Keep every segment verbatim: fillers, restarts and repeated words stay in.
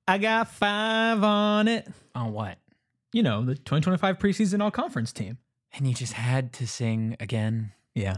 I got five on it. On what? You know, the twenty twenty-five preseason all-conference team. And you just had to sing again? Yeah.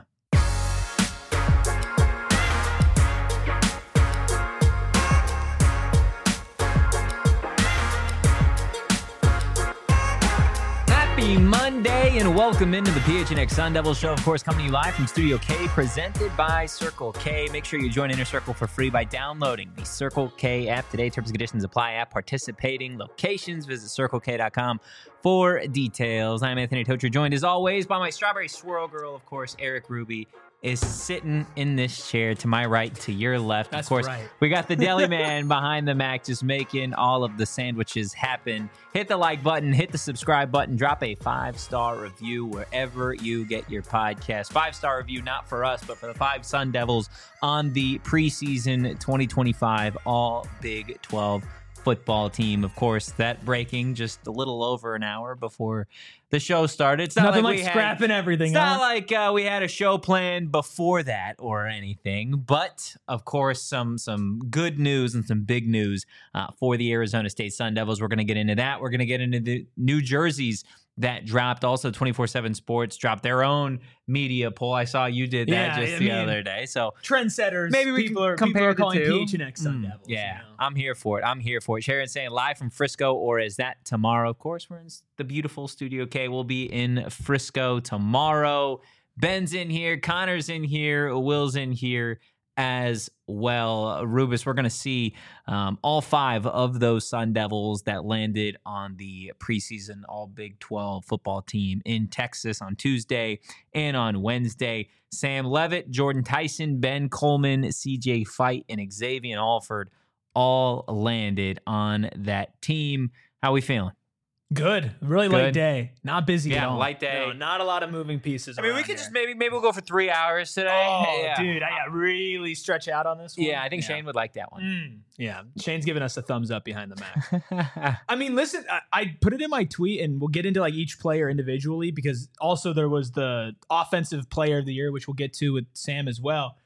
Happy Monday and welcome into the P H N X Sun Devils show, of course, coming to you live from Studio K, presented by Circle K. Make sure you join Inner Circle for free by downloading the Circle K app today. Terms and conditions apply at participating locations. Visit circle k dot com for details. I'm Anthony Tocher, joined as always by my strawberry swirl girl, of course, Eric Ruby is sitting in this chair to my right, to your left. That's of course, right. We got the deli man behind the Mac just making all of the sandwiches happen. Hit the like button, hit the subscribe button, drop a five-star review wherever you get your podcast. Five-star review, not for us, but for the five Sun Devils on the preseason twenty twenty-five All Big twelve football team. Of course, that breaking just a little over an hour before the show started. It's not Nothing like, like we scrapping had, everything. It's huh? not like uh, we had a show planned before that or anything. But of course, some some good news and some big news uh, for the Arizona State Sun Devils. We're going to get into that. We're going to get into the new jerseys that dropped. Also, twenty-four seven Sports dropped their own media poll. I saw you did that Yeah, just I the mean, other day. So Trendsetters. maybe we people can are, compare people are the calling two. P H N X Sun Mm, Devils. yeah, you know? I'm here for it. I'm here for it. Sharon saying live from Frisco, or is that tomorrow? Of course, we're in the beautiful Studio K. We'll be in Frisco tomorrow. Ben's in here. Connor's in here. Will's in here as well. Rubus, we're going to see um, all five of those Sun Devils that landed on the preseason All Big twelve football team in Texas on Tuesday and on Wednesday. Sam Levitt, Jordan Tyson, Ben Coleman, C J Fight, and Xavier Alford all landed on that team. How we feeling? Good. Really Good. light day. Not busy Yeah, at all. light day. No, not a lot of moving pieces. I mean, we around could here. just maybe maybe we'll go for three hours today. Oh, yeah. dude, I got really stretch out on this one. Yeah, I think Shane would like that one. Mm, yeah, Shane's giving us a thumbs up behind the Mac. I mean, listen, I, I put it in my tweet, and we'll get into like each player individually because also there was the offensive player of the year, which we'll get to with Sam as well.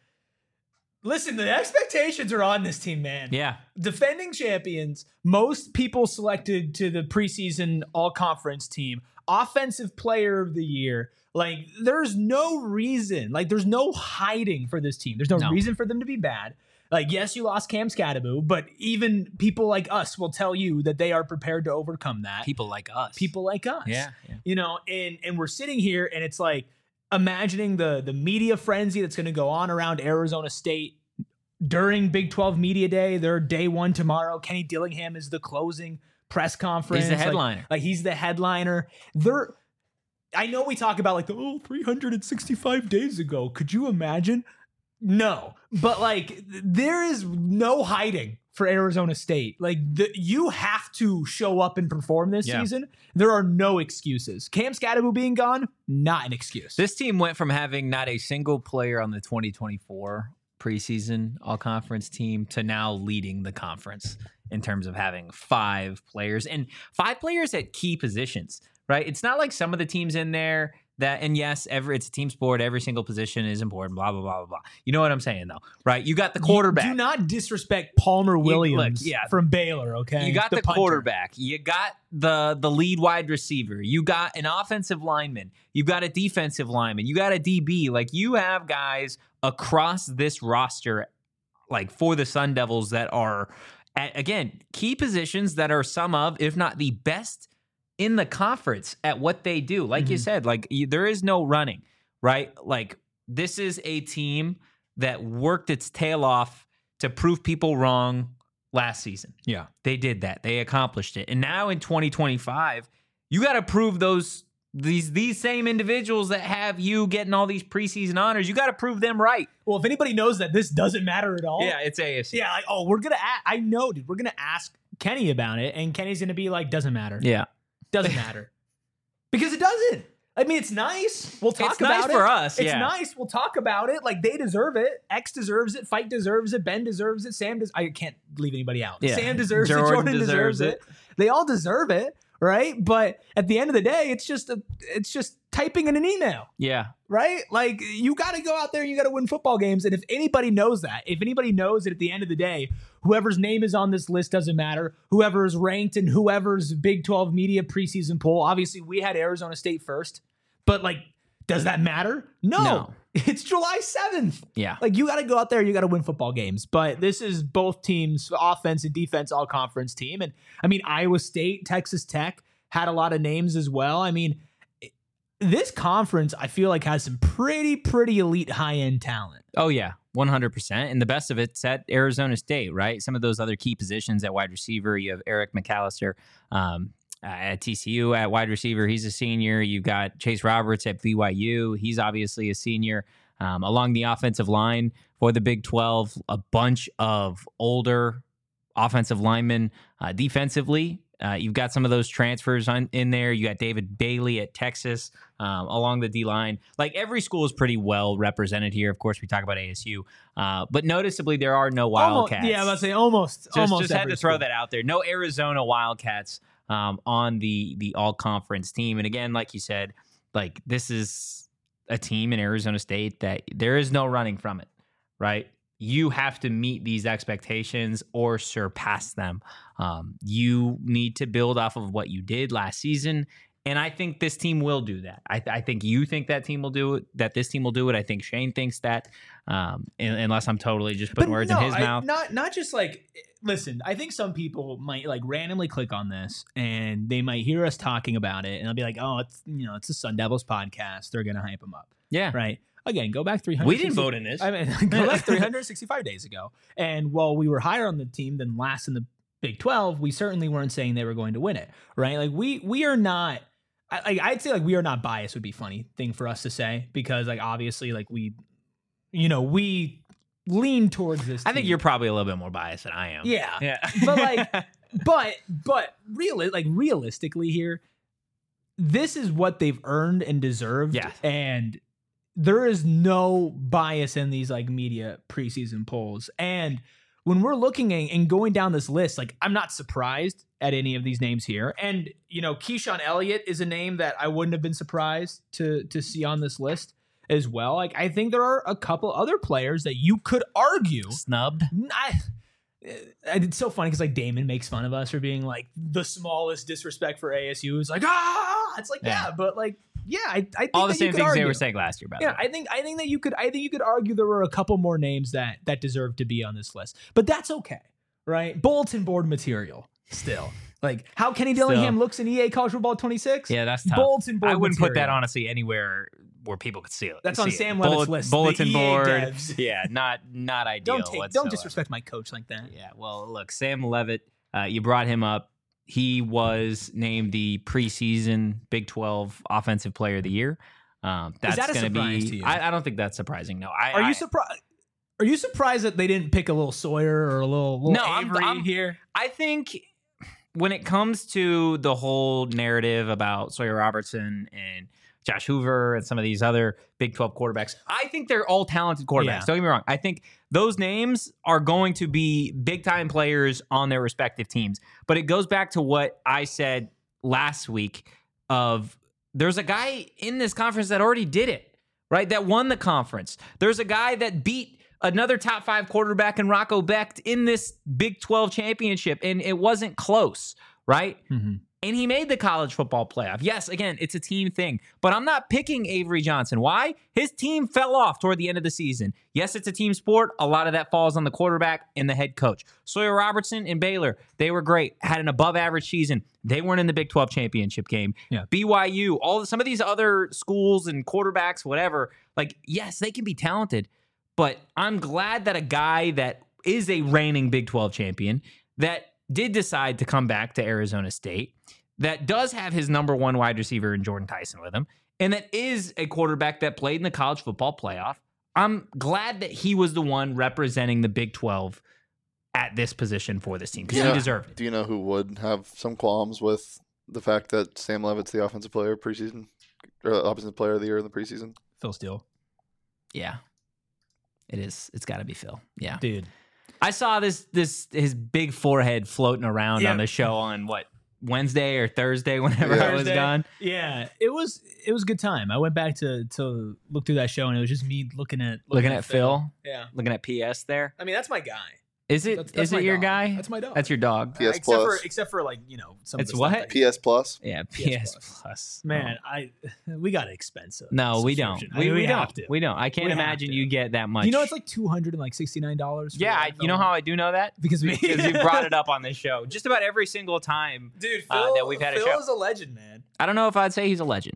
Listen, the expectations are on this team, man. Yeah. Defending champions, most people selected to the preseason all-conference team, offensive player of the year. Like, there's no reason, like, there's no hiding for this team. There's no, No. reason for them to be bad. Like, yes, you lost Cam Scadaboo, but even people like us will tell you that they are prepared to overcome that. People like us. People like us. Yeah. yeah. You know, and and we're sitting here and it's like imagining the the media frenzy that's going to go on around Arizona State during Big twelve Media Day. Their day one tomorrow. Kenny Dillingham is the closing press conference. He's the Like- headliner. Like, he's the headliner. They're I know we talk about like the oh three hundred sixty-five days ago. Could you imagine? No. But like there is no hiding for Arizona State. Like the, you have to show up and perform this Yeah. season. There are no excuses. Cam Scadaboo being gone, not an excuse. This team went from having not a single player on the twenty twenty-four preseason all-conference team to now leading the conference in terms of having five players and five players at key positions, right? It's not like some of the teams in there that, and yes, every it's a team sport. Every single position is important, blah, blah, blah, blah, blah. You know what I'm saying, though, right? You got the quarterback. You do not disrespect Palmer Williams look, yeah. from Baylor, okay? You got the, punter. quarterback. You got the the lead wide receiver. You got an offensive lineman. You got a defensive lineman. You got a D B. Like, you have guys across this roster, like, for the Sun Devils that are, at, again, key positions that are some of, if not the best in the conference at what they do. Like you Mhm. said, like, you, there is no running, right? Like, this is a team that worked its tail off to prove people wrong last season. Yeah. They did that. They accomplished it. And now in twenty twenty-five, you got to prove those these these same individuals that have you getting all these preseason honors. You got to prove them right. Well, if anybody knows that this doesn't matter at all. Yeah, it's A F C. Yeah, like, oh, we're going to ask, I know, dude, we're going to ask Kenny about it, and Kenny's going to be like, doesn't matter. Yeah. Doesn't matter. Because it doesn't. I mean, it's nice. We'll talk It's about nice it. for us, It's yeah. nice. We'll talk about it. Like, they deserve it. X deserves it. Fight deserves it. Ben deserves it. Sam does. I can't leave anybody out. Yeah. Sam deserves it. Jordan Jordan deserves, deserves it. They all deserve it, right? But at the end of the day, it's just a, it's just typing in an email. Yeah. Right? Like, you got to go out there and you got to win football games. And if anybody knows that, if anybody knows that at the end of the day, whoever's name is on this list doesn't matter, whoever is ranked in whoever's Big twelve media preseason poll, obviously we had Arizona State first, but like, does that matter? No. No. It's July seventh. Yeah. Like, you got to go out there, you got to win football games. But this is both teams, offense and defense, all conference team. And I mean, Iowa State, Texas Tech had a lot of names as well. I mean, this conference, I feel like, has some pretty, pretty elite high-end talent. Oh, yeah, one hundred percent. And the best of it's at Arizona State, right? Some of those other key positions at wide receiver, you have Eric McAllister um, at T C U at wide receiver. He's a senior. You've got Chase Roberts at B Y U. He's obviously a senior. Um, along the offensive line for the Big twelve, a bunch of older offensive linemen. Uh, defensively, Uh, you've got some of those transfers on, in there. You got David Bailey at Texas um, along the D-line. Like, every school is pretty well represented here. Of course, we talk about A S U. Uh, but noticeably, there are no Wildcats. Almost, yeah, I was about to say almost. Just, almost just had to school. throw that out there. No Arizona Wildcats um, on the, the all-conference team. And again, like you said, like, this is a team in Arizona State that there is no running from it, right? You have to meet these expectations or surpass them. Um, you need to build off of what you did last season, and I think this team will do that. I, I think you think that team will do it, that this team will do it. I think Shane thinks that, um, unless I'm totally just putting But words no, in his I, mouth. Not not just like, listen, I think some people might like randomly click on this and they might hear us talking about it and they'll be like, oh, it's, you know, it's the Sun Devils podcast. They're going to hype them up. Yeah. Right. Again, go back three hundred. We didn't vote in this. I mean, go back three hundred sixty-five days ago. And while we were higher on the team than last in the Big twelve, we certainly weren't saying they were going to win it, right? Like, we we are not, I, I'd say like we are not biased would be a funny thing for us to say, because like obviously like we, you know, we lean towards this I think team. you're probably a little bit more biased than I am. Yeah. Yeah. But like, but, but real, like realistically here, this is what they've earned and deserved. Yeah. And there is no bias in these like media preseason polls. And when we're looking at, and going down this list, like, I'm not surprised at any of these names here. And, you know, Keyshawn Elliott is a name that I wouldn't have been surprised to to see on this list as well. Like, I think there are a couple other players that you could argue Snubbed. I, it's so funny because like Damon makes fun of us for being like the smallest disrespect for A S U. It's like, ah, it's like, yeah, Yeah. but like, yeah, I, I think All the that you same could things argue. they were saying last year, by the Yeah, way. I think I think that you could I think you could argue there were a couple more names that that deserve to be on this list, but that's okay, right? Bulletin board material still. Like how Kenny Dillingham Still. looks in E A College Football twenty-six. Yeah, that's tough. Bulletin board. I wouldn't put that material. honestly anywhere where people could see it. That's see on it. Sam Levitt's Bullet- list, the Bulletin E A board. devs. Yeah, not not ideal. Don't take whatsoever. don't disrespect my coach like that. Yeah, well, look, Sam Levitt, uh, you brought him up. He was named the preseason Big twelve Offensive Player of the Year. Um, that's that a going surprise be. to you? I, I don't think that's surprising. No, I. Are I, you surprised? Are you surprised that they didn't pick a little Sawyer or a little, little No, I'm- Avery I'm- here? I think when it comes to the whole narrative about Sawyer Robertson and Josh Hoover and some of these other Big twelve quarterbacks, I think they're all talented quarterbacks. Yeah. Don't get me wrong. I think those names are going to be big-time players on their respective teams. But it goes back to what I said last week of there's a guy in this conference that already did it, right? That won the conference. There's a guy that beat another top five quarterback in Rocco Becht in this Big twelve championship, and it wasn't close, right? Mm-hmm. And he made the college football playoff. Yes, again, it's a team thing, but I'm not picking Avery Johnson. Why? His team fell off toward the end of the season. Yes, it's a team sport. A lot of that falls on the quarterback and the head coach. Sawyer Robertson and Baylor, they were great, had an above average season. They weren't in the Big twelve championship game. Yeah. B Y U, all some of these other schools and quarterbacks, whatever, like, yes, they can be talented, but I'm glad that a guy that is a reigning Big twelve champion that did decide to come back to Arizona State, that does have his number one wide receiver in Jordan Tyson with him, and that is a quarterback that played in the college football playoff. I'm glad that he was the one representing the Big twelve at this position for this team because Yeah. he deserved it. Do you know who would have some qualms with the fact that Sam Levitt's the offensive player preseason, or offensive player of the year in the preseason? Phil Steele, Yeah, it is. It's got to be Phil. Yeah, dude. I saw this this his big forehead floating around Yeah. on the show on what Wednesday or Thursday, whenever Yeah. I was Thursday. gone. Yeah, it was it was a good time. I went back to to look through that show, and it was just me looking at Looking at Phil, Yeah, looking at P S there. I mean that's my guy. Is it? That's, that's Is my it your dog. guy? That's my dog. That's your dog. P S except Plus. for except for like you know some. It's of the stuff what? that- P S Plus. Yeah, P P S S Plus. Plus. Man, I we got an expensive. No, we don't. subscription. I We, mean, we, have don't. to. We don't. I can't We have imagine to. you get that much. You know, it's like two hundred and like sixty nine dollars. yeah. I, you know how I do know that because we because you brought it up on this show just about every single time. dude. uh, Phil, that we've had a Phil show. is a legend, man. I don't know if I'd say he's a legend,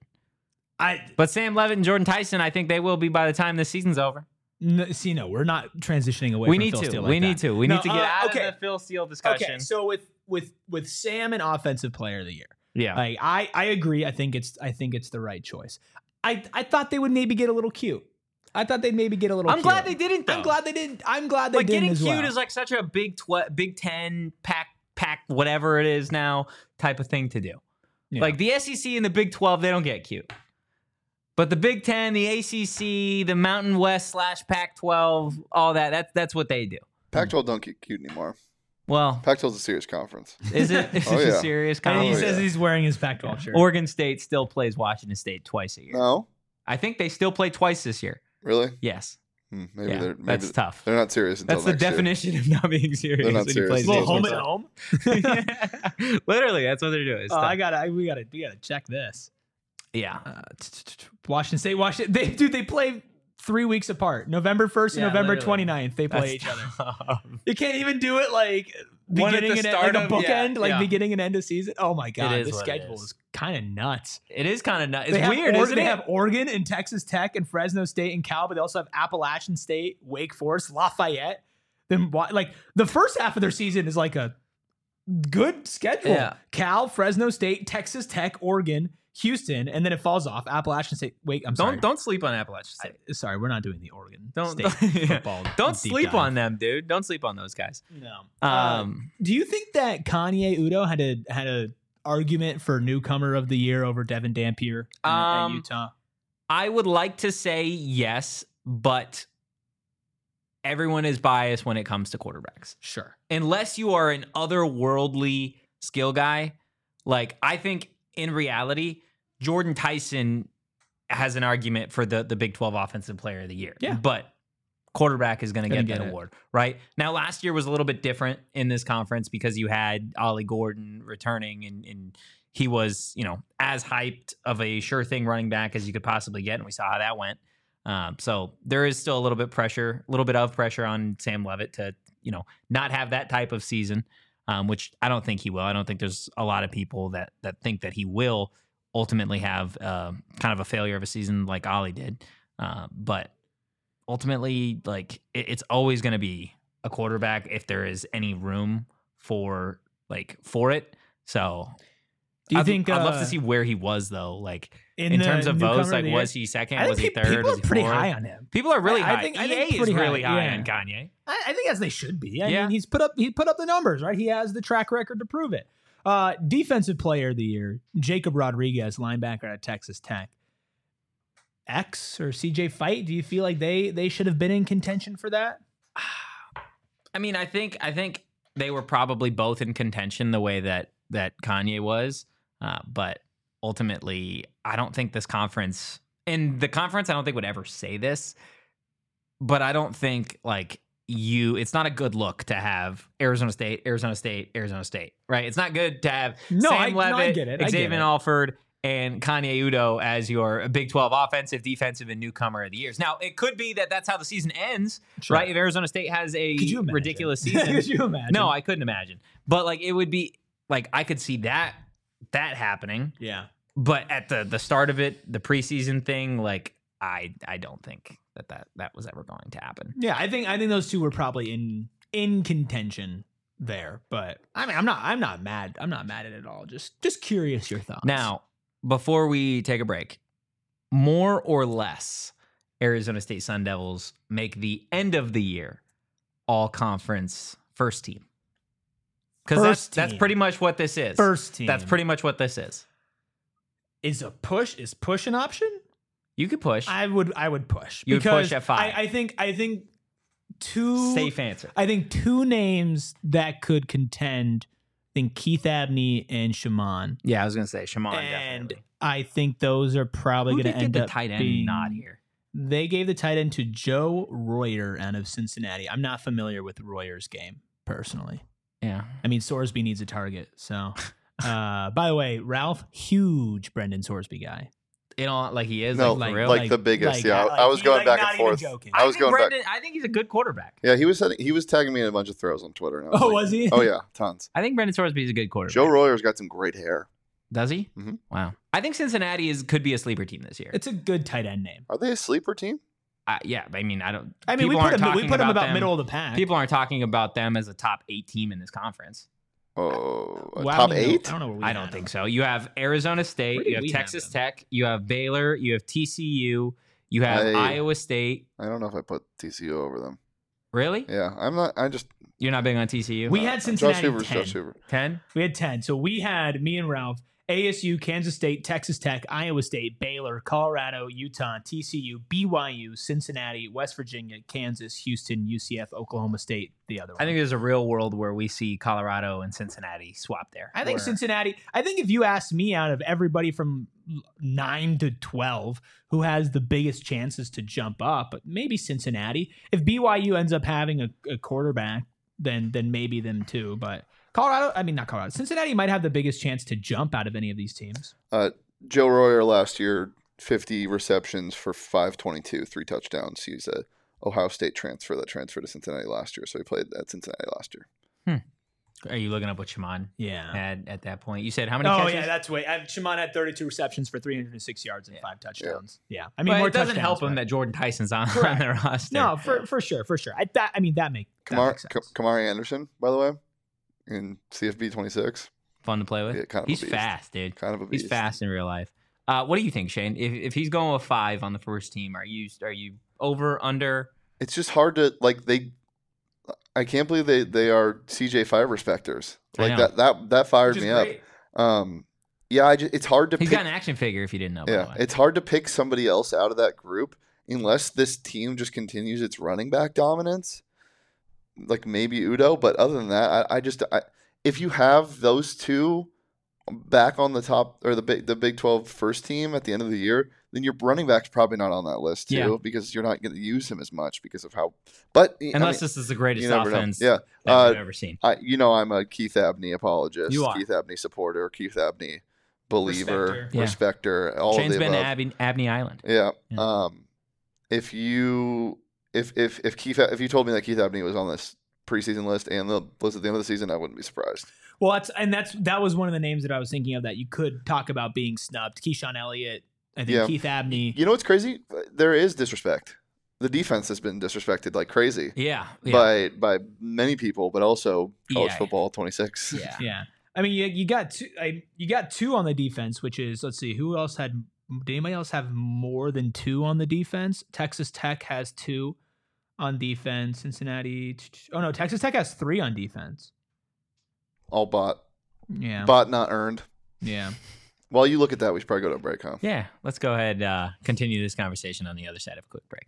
I but Sam Levitt and Jordan Tyson, I think they will be by the time this season's over. no, see no, we're not transitioning away. We from need Phil to. Steele we like need that. to. We No, need to get uh, out okay. of the Phil Steele discussion. Okay, so with with with Sam and Offensive Player of the Year, yeah. like I I agree. I think it's I think it's the right choice. I I thought they would maybe get a little cute. I thought they'd maybe get a little. I'm cute. glad they didn't. Though. I'm glad they didn't. I'm glad they like didn't getting as cute well. is like such a big tw- Big Ten pack pack whatever it is now type of thing to do. Yeah. Like the S E C and the Big twelve, they don't get cute. But the Big Ten, the A C C, the Mountain West slash Pac twelve, all that, that's that's what they do. Pac twelve don't get cute anymore. Well, Pac twelve is a serious conference. is it? Is Oh, it a yeah. serious and he Oh, conference? says yeah. he's wearing his Pac twelve shirt. Oregon State still plays Washington State twice a year. No, I think they still play twice this year. really? Yes. Hmm, maybe Yeah, they're maybe that's tough. they're not serious until That's the next year. definition of not being serious. They're not when you serious play until little state home next and year. home. Yeah. Literally, that's what they're doing. It's Oh, tough. I gotta. I, we gotta. We gotta check this. yeah. Uh, t- t- t- Washington State. Washington. They dude. They play three weeks apart. November first and Yeah, November literally. 29th. They play That's each other. tough. You can't even do it like One at beginning the and end, start like a of- yeah, bookend, like yeah. beginning and end of season. Oh my god, is this what it schedule is. is, kind of nuts. It is kind of nuts. It's they have weird, Or- isn't they it? have Oregon and Texas Tech and Fresno State and Cal, but they also have Appalachian State, Wake Forest, Lafayette. Then wa- like the first half of their season is like a good schedule. Yeah. Cal, Fresno State, Texas Tech, Oregon, Houston, and then it falls off. Appalachian State. Wait, I'm sorry. Don't don't sleep on Appalachian State. I- sorry, we're not doing the Oregon Don't State don't, yeah. football. Don't deep sleep dive. on them, dude. Don't sleep on those guys. No. Um, Um, do you think that Kanye Udo had a had a argument for newcomer of the year over Devin Dampier in, Um, at Utah? I would like to say yes, but everyone is biased when it comes to quarterbacks. Sure. Unless you are an otherworldly skill guy, like I think in reality, Jordan Tyson has an argument for the the Big twelve Offensive Player of the Year. Yeah. But quarterback is going to Gonna get get that it. award, right? Now, last year was a little bit different in this conference because you had Ollie Gordon returning and, and he was, you know, as hyped of a sure thing running back as you could possibly get. And we saw how that went. Um, so there is still a little bit pressure, a little bit of pressure on Sam Levitt to, you know, not have that type of season, um, which I don't think he will. I don't think there's a lot of people that that think that he will ultimately have uh, kind of a failure of a season like Ollie did. Uh, but ultimately, like it, it's always going to be a quarterback if there is any room for like for it. So Do you I'd, think I'd love uh, to see where he was though, like in, in, the terms of newcomer votes, of like the was year? he second? I Was he think third? people Was are he pretty fourth? high on him. People are really I- I high. think- I E A think is pretty high, really high, yeah. on Kanye. I, I think as they should be. I Yeah. mean, he's put up he put up the numbers, right? He has the track record to prove it. Uh, defensive player of the year, Jacob Rodriguez, linebacker at Texas Tech. X or C J Fight, do you feel like they they should have been in contention for that? I mean, I think I think they were probably both in contention the way that that Kanye was, uh, but ultimately, I don't think this conference and the conference I don't think would ever say this, but I don't think like you. It's not a good look to have Arizona State, Arizona State, Arizona State, right? It's not good to have No, Sam I- no, Levitt, I get it. I get Xavier it. Alford, and Kanye Udo as your Big twelve offensive, defensive, and newcomer of the years. Now, it could be that that's how the season ends, Sure. right? If Arizona State has a Could you imagine? ridiculous season. Could you imagine? No, I couldn't imagine. But like it would be like I could see that that happening. yeah. But at the the start of it, the preseason thing, like I I don't think that that, that was ever going to happen. Yeah, I think I think those two were probably in in contention there. But I mean I'm not I'm not mad. I'm not mad at it at all. Just just curious your thoughts. Now, before we take a break, more or less, Arizona State Sun Devils make the end of the year all conference first team. Because that's First that's team. pretty much what this is. first team. That's pretty much what this is. is a push is push an option? You could push. I would I would push. You would because push at five. I, I think I think two Safe answer. I think two names that could contend think Keith Abney and Shaman. Yeah, I was gonna say Shaman. And definitely. I think those are probably Who going to did end get the up tight end being nod here? They gave the tight end to Joe Royer out of Cincinnati. I'm not familiar with Royer's game personally. Yeah. I mean, Sorsby needs a target. So, uh, by the way, Ralph, huge Brendan Sorsby guy. You know, like he is. No, like, like, for real. like- the biggest. like- yeah, I- like I was he- going like, back not and even forth. joking. I was think going Brendan, back. I think he's a good quarterback. Yeah, he was sending, he was tagging me in a bunch of throws on Twitter. And I was Oh, like, was he? Oh yeah, tons. I think Brendan Sorsby is a good quarterback. Joe Royer's got some great hair. Does he? Mhm. Wow. I think Cincinnati is could be a sleeper team this year. It's a good tight end name. Are they a sleeper team? Uh, yeah, I mean, I don't. I mean, we people put aren't him, we talking put him about them- middle of the pack. People aren't talking about them as a top eight team in this conference. Oh, a Well, I top don't even know- eight? I don't know where we I had don't him. think so. You have Arizona State, Where did you have we have Texas them? Tech, you have Baylor, you have T C U, you have I- Iowa State. I don't know if I put T C U over them. Really? Yeah, I'm not. I just You're not big on T C U? We had Josh Cincinnati Hoover's ten. Josh Hoover. ten? We had ten. So we had me and Ralph, A S U, Kansas State, Texas Tech, Iowa State, Baylor, Colorado, Utah, T C U, B Y U, Cincinnati, West Virginia, Kansas, Houston, U C F, Oklahoma State, the other one. I think there's a real world where we see Colorado and Cincinnati swap there. I think Where- Cincinnati, I think if you asked me out of everybody from nine to twelve who has the biggest chances to jump up, but maybe Cincinnati. If B Y U ends up having a, a quarterback, then then maybe them too. But Colorado, I mean, not Colorado, Cincinnati might have the biggest chance to jump out of any of these teams. Uh, Joe Royer last year, fifty receptions for five twenty-two, three touchdowns. He's a Ohio State transfer that transferred to Cincinnati last year, so he played at Cincinnati last year. Are you looking up what Shaman Yeah. had at that point? You said how many Oh, catches? yeah, that's way. I, Shimon had thirty-two receptions for three hundred six yards and five touchdowns. Yeah. I mean, But more it doesn't touchdowns, help him but- that Jordan Tyson's on, on Correct. their roster. No, for, for sure, for sure. I, that, I mean, that, make, that Kamar, makes sense. Ka- Kamari Anderson, by the way, in C F B twenty-six, Fun to play with. Yeah, kind of a He's beast. fast, dude. kind of a beast. He's fast in real life. Uh, what do you think, Shane? If, if he's going with five on the first team, are you are you over, under? It's just hard to like they. I can't believe they they are C J five respecters. I Like know. that that that fired Which is me up. great. Um, yeah, I just, it's hard to He's pick. got an action figure. If you didn't know, by the Yeah, way. it's hard to pick somebody else out of that group unless this team just continues its running back dominance. Like maybe Udo, but other than that, I, I just I, if you have those two back on the top or the big the Big twelve first team at the end of the year, then your running back's probably not on that list too Yeah. because you're not going to use him as much because of how. But I Unless mean, this is the greatest you never know. offense Yeah, that uh, we've ever seen. I you know I'm a Keith Abney apologist, You are. Keith Abney supporter, Keith Abney believer, Respecter. Yeah. respecter, all Shane's of the been to above. Abney, Abney Island. Yeah. Yeah. Um, if you if if if Keith if you told me that Keith Abney was on this preseason list and the list at the end of the season, I wouldn't be surprised. Well, that's and that's that was one of the names that I was thinking of that you could talk about being snubbed. Keyshawn Elliott, I think Yeah. Keith Abney. You know what's crazy? There is disrespect. The defense has been disrespected like crazy Yeah, yeah. by by many people, but also college Yeah. football twenty-six. yeah. Yeah, I mean you, you got two. I, you got two on the defense, which is let's see who else had. Did anybody else have more than two on the defense? Texas Tech has two on defense. Cincinnati. Oh no, Texas Tech has three on defense. All bought, Yeah. bought not earned. Yeah. While you look at that, we should probably go to a break, huh? Yeah, let's go ahead uh continue this conversation on the other side of a quick break.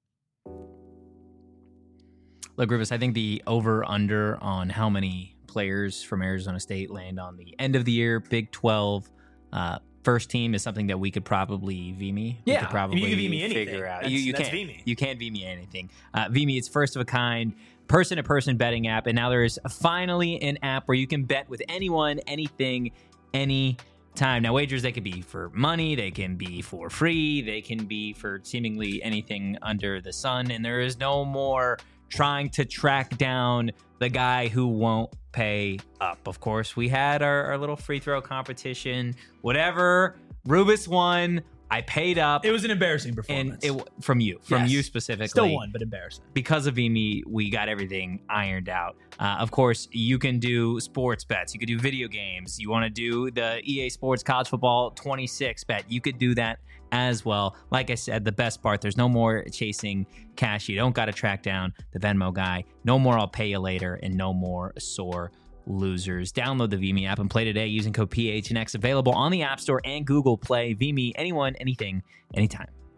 Look, Rufus, I think the over-under on how many players from Arizona State land on the end of the year Big twelve uh, first team is something that we could probably V me. We Yeah, could probably you can V me anything. figure out. That's- you you that's can't V me. you can't V me anything. Uh, V me, it's first of a kind. Person-to-person betting app, and now there is finally an app where you can bet with anyone, anything, any time. Now, wagers, they could be for money, they can be for free, they can be for seemingly anything under the sun, and there is no more trying to track down the guy who won't pay up. Of course, we had our, our little free throw competition, whatever. Rubus won. I paid up. It was an embarrassing and performance. it from you, from Yes. you specifically. Still won, but embarrassing. Because of V M E, we got everything ironed out. Uh, of course, you can do sports bets. You could do video games. You want to do the E A Sports College Football twenty-six bet. You could do that as well. Like I said, the best part, there's no more chasing cash. You don't got to track down the Venmo guy. No more I'll pay you later, and no more sore losers. Download the V M E app and play today using code P H N X. Available on the App Store and Google Play. V M E, anyone, anything, anytime.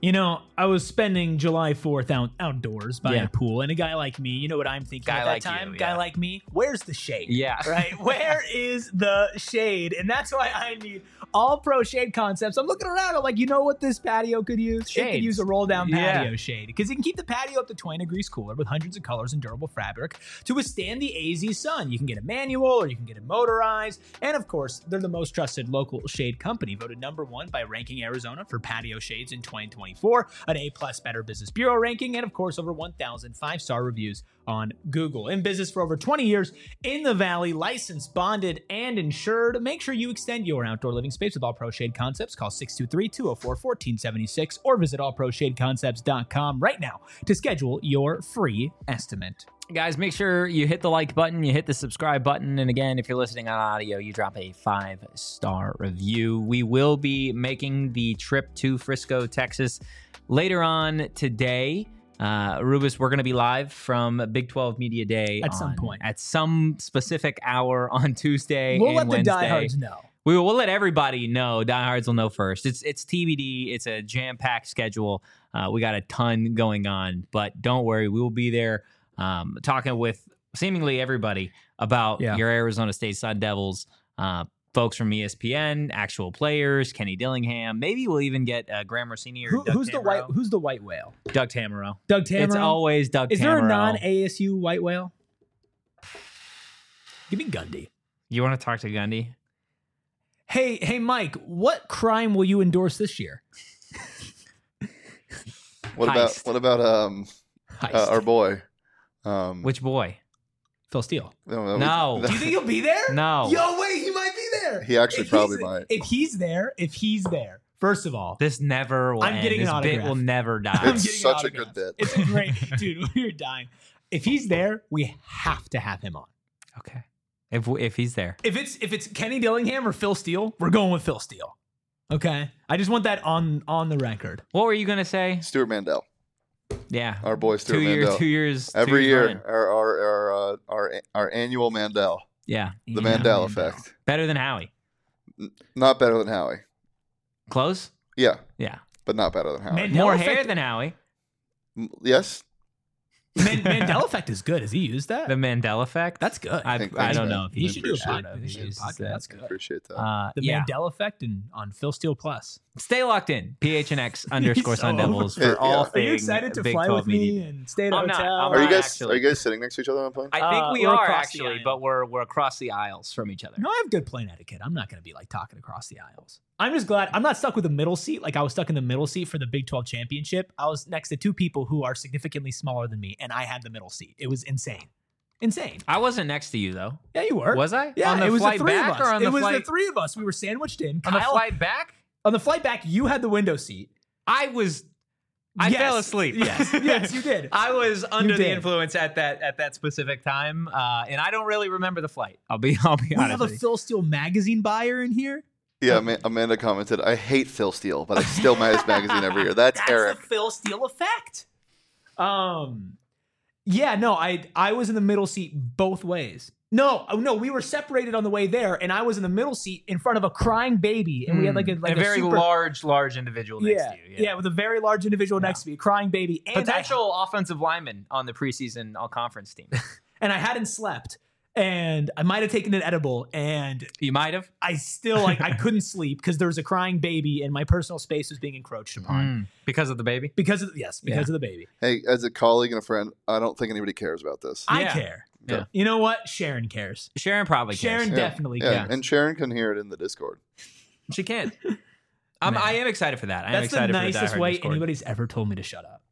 You know, I was spending July fourth out, outdoors by Yeah. a pool, and a guy like me, you know what I'm thinking Guy at that like you, time? yeah. Guy like me, where's the shade? Yeah. Right? Where is the shade? And that's why I need all pro shade concepts. I'm looking around, I'm like, you know what this patio could use? It could Shades. use a roll down Yeah. patio shade. Because you can keep the patio up to twenty degrees cooler with hundreds of colors and durable fabric to withstand the A Z sun. You can get a manual or you can get it motorized. And of course, they're the most trusted local shade company, voted number one by Ranking Arizona for patio shades in twenty twenty-four, an A plus Better Business Bureau ranking, and of course, over one thousand five-star reviews on Google. In business for over twenty years in the Valley, licensed, bonded, and insured. Make sure you extend your outdoor living space with All Pro Shade Concepts. Call six two three, two oh four, one four seven six or visit all pro shade concepts dot com right now to schedule your free estimate. Guys, make sure you hit the like button, you hit the subscribe button, and again, if you're listening on audio, you drop a five-star review. We will be making the trip to Frisco, Texas later on today. Uh, Rubus, we're going to be live from Big twelve Media Day At on- some point. At some specific hour on Tuesday We'll and let the Wednesday. diehards know. We will we'll let everybody know. Diehards will know first. It's it's T B D. It's a jam-packed schedule. Uh, we got a ton going on, but don't worry, we will be there um, talking with seemingly everybody about Yeah. your Arizona State Sun Devils. Uh, folks from E S P N, actual players, Kenny Dillingham. Maybe we'll even get uh, Graham Rossini or Who, Doug who's the white? Tamaro. Who's the white whale? Doug Tamaro. Doug Tamaro. It's always Doug Is Tamaro. there a non-A S U white whale? Give me Gundy. You want to talk to Gundy? Hey, hey, Mike, what crime will you endorse this year? What about Heist. what about um Heist. uh, our boy? Um, Which boy? Phil Steele. no, No. Do you think he'll be there? No. Yo, wait, he might be there. He actually If probably he's- might. If he's there, if he's there, first of all, This never will I'm end. getting an this bit autograph. will never die. I'm It's getting an such a autograph. good bit. It's a great, dude. We're dying. If he's there, we have to have him on. Okay. If if he's there. If it's if it's Kenny Dillingham or Phil Steele, we're going with Phil Steele. Okay, I just want that on on the record. What were you gonna say? Stuart Mandel, Yeah. our boy Stuart two years, Mandel. two years, two Every years year, running. our our our, uh, our our annual Mandel, Yeah. the Yeah, Mandel effect. Better than Howie. Not better than Howie. Close? Yeah, Yeah. but not better than Howie. Man- More Mandela hair effect- than Howie. M- yes, Man- Mandela effect is good. Has he used that? The Mandela effect. That's good. I, Thank- I thanks, don't man. know if he he should do a appreciate podcast. it. He should do a uses podcast. that. That's I good. appreciate that. Uh, The yeah. Mandela effect and on Phil Steele Plus. Stay locked in. P H N X underscore so Sun Devils over. for all Yeah. Are things you excited to Big fly twelve with me media. and stay at a I'm not. hotel? I'm are you not guys actually. are you guys sitting next to each other on a plane? I think Uh, we we're are across the actually, aisle. but we're we're across the aisles from each other. No, I have good plane etiquette. I'm not going to be like talking across the aisles. I'm just glad I'm not stuck with the middle seat. Like I was stuck in the middle seat for the Big twelve championship. I was next to two people who are significantly smaller than me, and I had the middle seat. It was insane. Insane. I wasn't next to you though. Yeah, you were. Was I? Yeah, On the it was flight the three back of us. or on it the was flight the three of us. We were sandwiched in. on the Kyle- flight back? on the flight back, you had the window seat. I was. I Yes. fell asleep. Yes, yes, you did. I was under the did. influence at that at that specific time, uh, and I don't really remember the flight. I'll be I'll be We honest have a with you. Phil Steele magazine buyer in here. Yeah, Ama- Amanda commented, "I hate Phil Steele, but I still buy his magazine every year." That's, That's Eric. the Phil Steele effect. Um, yeah, no, I I was in the middle seat both ways. No, oh, no, we were separated on the way there, and I was in the middle seat in front of a crying baby, and we had like a like a very super, large, large individual next yeah, to you. yeah, with a very large individual Yeah. next to me, a crying baby, and I, Potential offensive lineman on the preseason all conference team. and I hadn't slept, and I might have taken an edible, and You might have. I still like I couldn't sleep because there was a crying baby, and my personal space was being encroached upon Mm. Because of the baby. because of yes, because of the baby. Hey, as a colleague and a friend, I don't think anybody cares about this. I Yeah. care. Yeah. You know what? Sharon cares. Sharon probably Sharon cares. Yeah. definitely Yeah, cares. and Sharon can hear it in the Discord. She can. I'm, Man. I am excited for that. I am That's the excited for the nicest Die Hard way Discord. anybody's ever told me to shut up.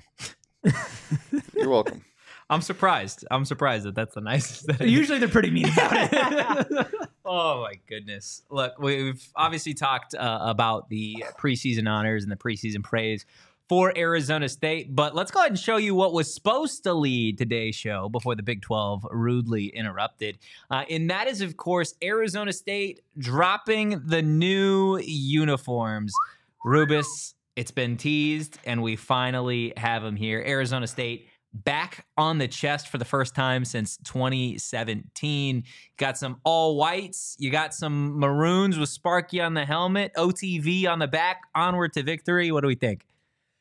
You're welcome. I'm surprised. I'm surprised that that's the nicest. That Usually they're pretty mean about it. Oh my goodness! Look, we've obviously talked uh, about the preseason honors and the preseason praise for Arizona State, but let's go ahead and show you what was supposed to lead today's show before the Big twelve rudely interrupted. Uh, and that is, of course, Arizona State dropping the new uniforms. Rubus, it's been teased, and we finally have them here. Arizona State back on the chest for the first time since twenty seventeen. Got some all whites. You got some maroons with Sparky on the helmet, O T V on the back. Onward to victory. What do we think?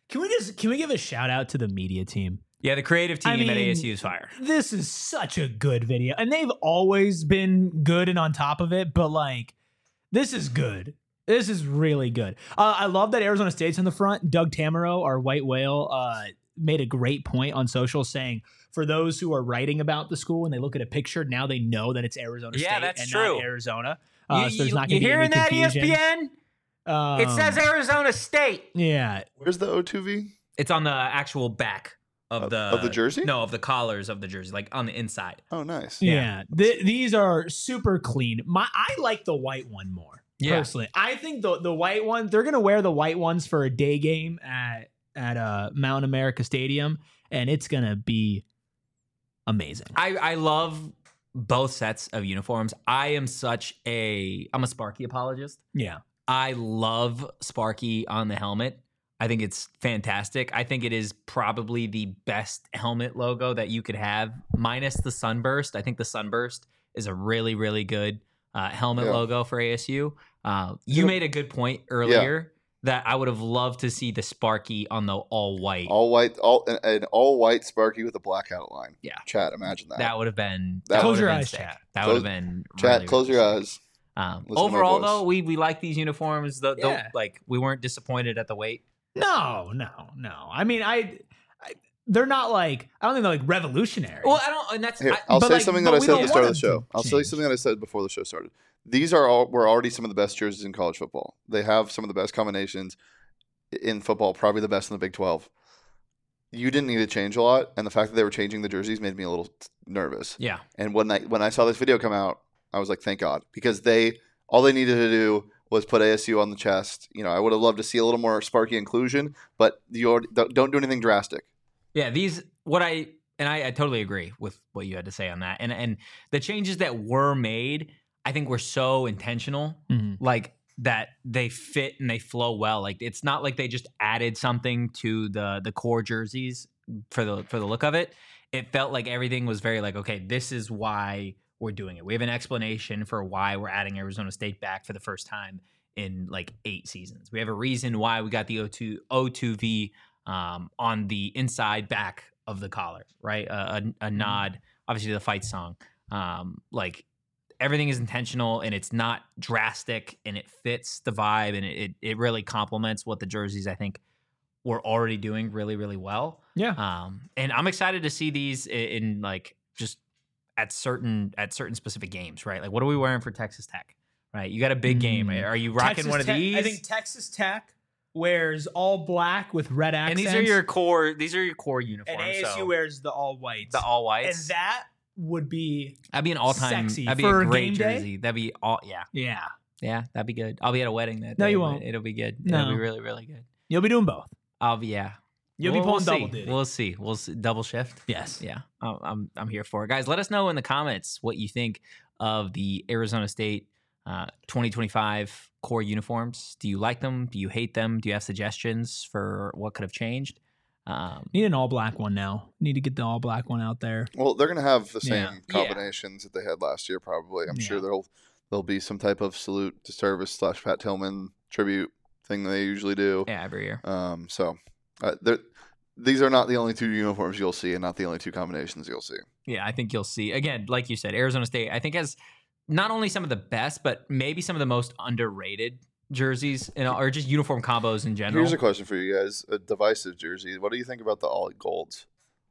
Can we just can we give a shout out to the media team? Yeah, the creative team I mean, at A S U is fire. This is such a good video, and they've always been good and on top of it. But like, this is good. This is really good. Uh, I love that Arizona State's in the front. Doug Tamaro, our white whale, uh, made a great point on social saying, for those who are writing about the school and they look at a picture, now they know that it's Arizona Yeah, State that's and true. not Arizona. Uh, you so there's you, not you going to be hearing any that, confusion. E S P N? Um, It says Arizona State. Yeah. Where's the O two V? It's on the actual back of Of- the of the jersey? No, of the collars of the jersey, like on the inside. Oh, nice. Yeah. Th- these are super clean. My I like the white one more. Yeah. Personally, I think the the white one, they're gonna wear the white ones for a day game at at uh, Mount America Stadium, and it's gonna be amazing. I, I love both sets of uniforms. I am such a I'm a Sparky apologist. Yeah, I love Sparky on the helmet. I think it's fantastic. I think it is probably the best helmet logo that you could have, minus the sunburst. I think the sunburst is a really, really good uh, helmet Yeah. logo for A S U. Uh, you Yeah. made a good point earlier that I would have loved to see the Sparky on the all white. All white, all an, an all white Sparky with a black outline. Yeah. Chat, imagine that. That would have been. That- That Close would your have been eyes, sick. chat. That Close- would have been. Chat, really, close really your sick. eyes. Um, Listen to my overall, voice. though, we we like these uniforms. The, the Yeah. like we weren't disappointed at the weight. no, no, no. I mean, I, I they're not like I don't think they're like revolutionary. Well, I don't, and that's Here, I, I'll but say like- something but that I we said at don't the start of want the them show. to I'll tell you change. something that I said before the show started. These are all were already some of the best jerseys in college football. They have some of the best combinations in football, probably the best in the Big twelve. You didn't need to change a lot, and the fact that they were changing the jerseys made me a little t- nervous. yeah. And when I when I saw this video come out, I was like, thank God, because they all they needed to do was put A S U on the chest. You know, I would have loved to see a little more Sparky inclusion, but you already, don't don't do anything drastic. Yeah, these what I and I, I totally agree with what you had to say on that. And and the changes that were made, I think were so intentional, Mhm. like that they fit and they flow well. Like it's not like they just added something to the the core jerseys for the for the look of it. It felt like everything was very like, okay, this is why we're doing it. We have an explanation for why we're adding Arizona State back for the first time in like eight seasons. We have a reason why we got the O two O two V um, on the inside back of the collar, right? A, a, a nod, obviously, to the fight song. Um, like everything is intentional and it's not drastic and it fits the vibe and it it really complements what the jerseys I think were already doing really really well. Yeah. Um, and I'm excited to see these in, in like just at certain at certain specific games, right? Like what are we wearing for Texas Tech? Right, you got a big game. Mm. Are you rocking Texas one of Tech- these? I think Texas Tech wears all black with red and accents. these are your core. These are your core uniforms. and A S U so wears the all whites. the all and whites. that would be That'd be an all time. sexy That'd be for a a great game day? jersey. That'd be all. Yeah, yeah. yeah. That'd be good. I'll be at a wedding that No, day, you but won't. It'll be good. No. It'll be really really good. You'll be doing both. I'll be yeah. You'll We'll- be pulling we'll double see. duty. We'll see. We'll see. Double shift. yes. Yeah, I'm, I'm I'm here for it, guys. Let us know in the comments what you think of the Arizona State uh, twenty twenty-five core uniforms. Do you like them? Do you hate them? Do you have suggestions for what could have changed? Um, Need an all black one now. Need to get the all black one out there. Well, they're going to have the Yeah. same combinations that they had last year, probably. I'm sure Yeah. there'll there'll be some type of salute to service slash Pat Tillman tribute thing they usually do. yeah, every year. Um, so uh, they're- these are not the only two uniforms you'll see, and not the only two combinations you'll see. Yeah, I think you'll see again, like you said, Arizona State. I think has not only some of the best, but maybe some of the most underrated jerseys, you know, or just uniform combos in general. Here's a question for you guys: a divisive jersey. What do you think about the all golds?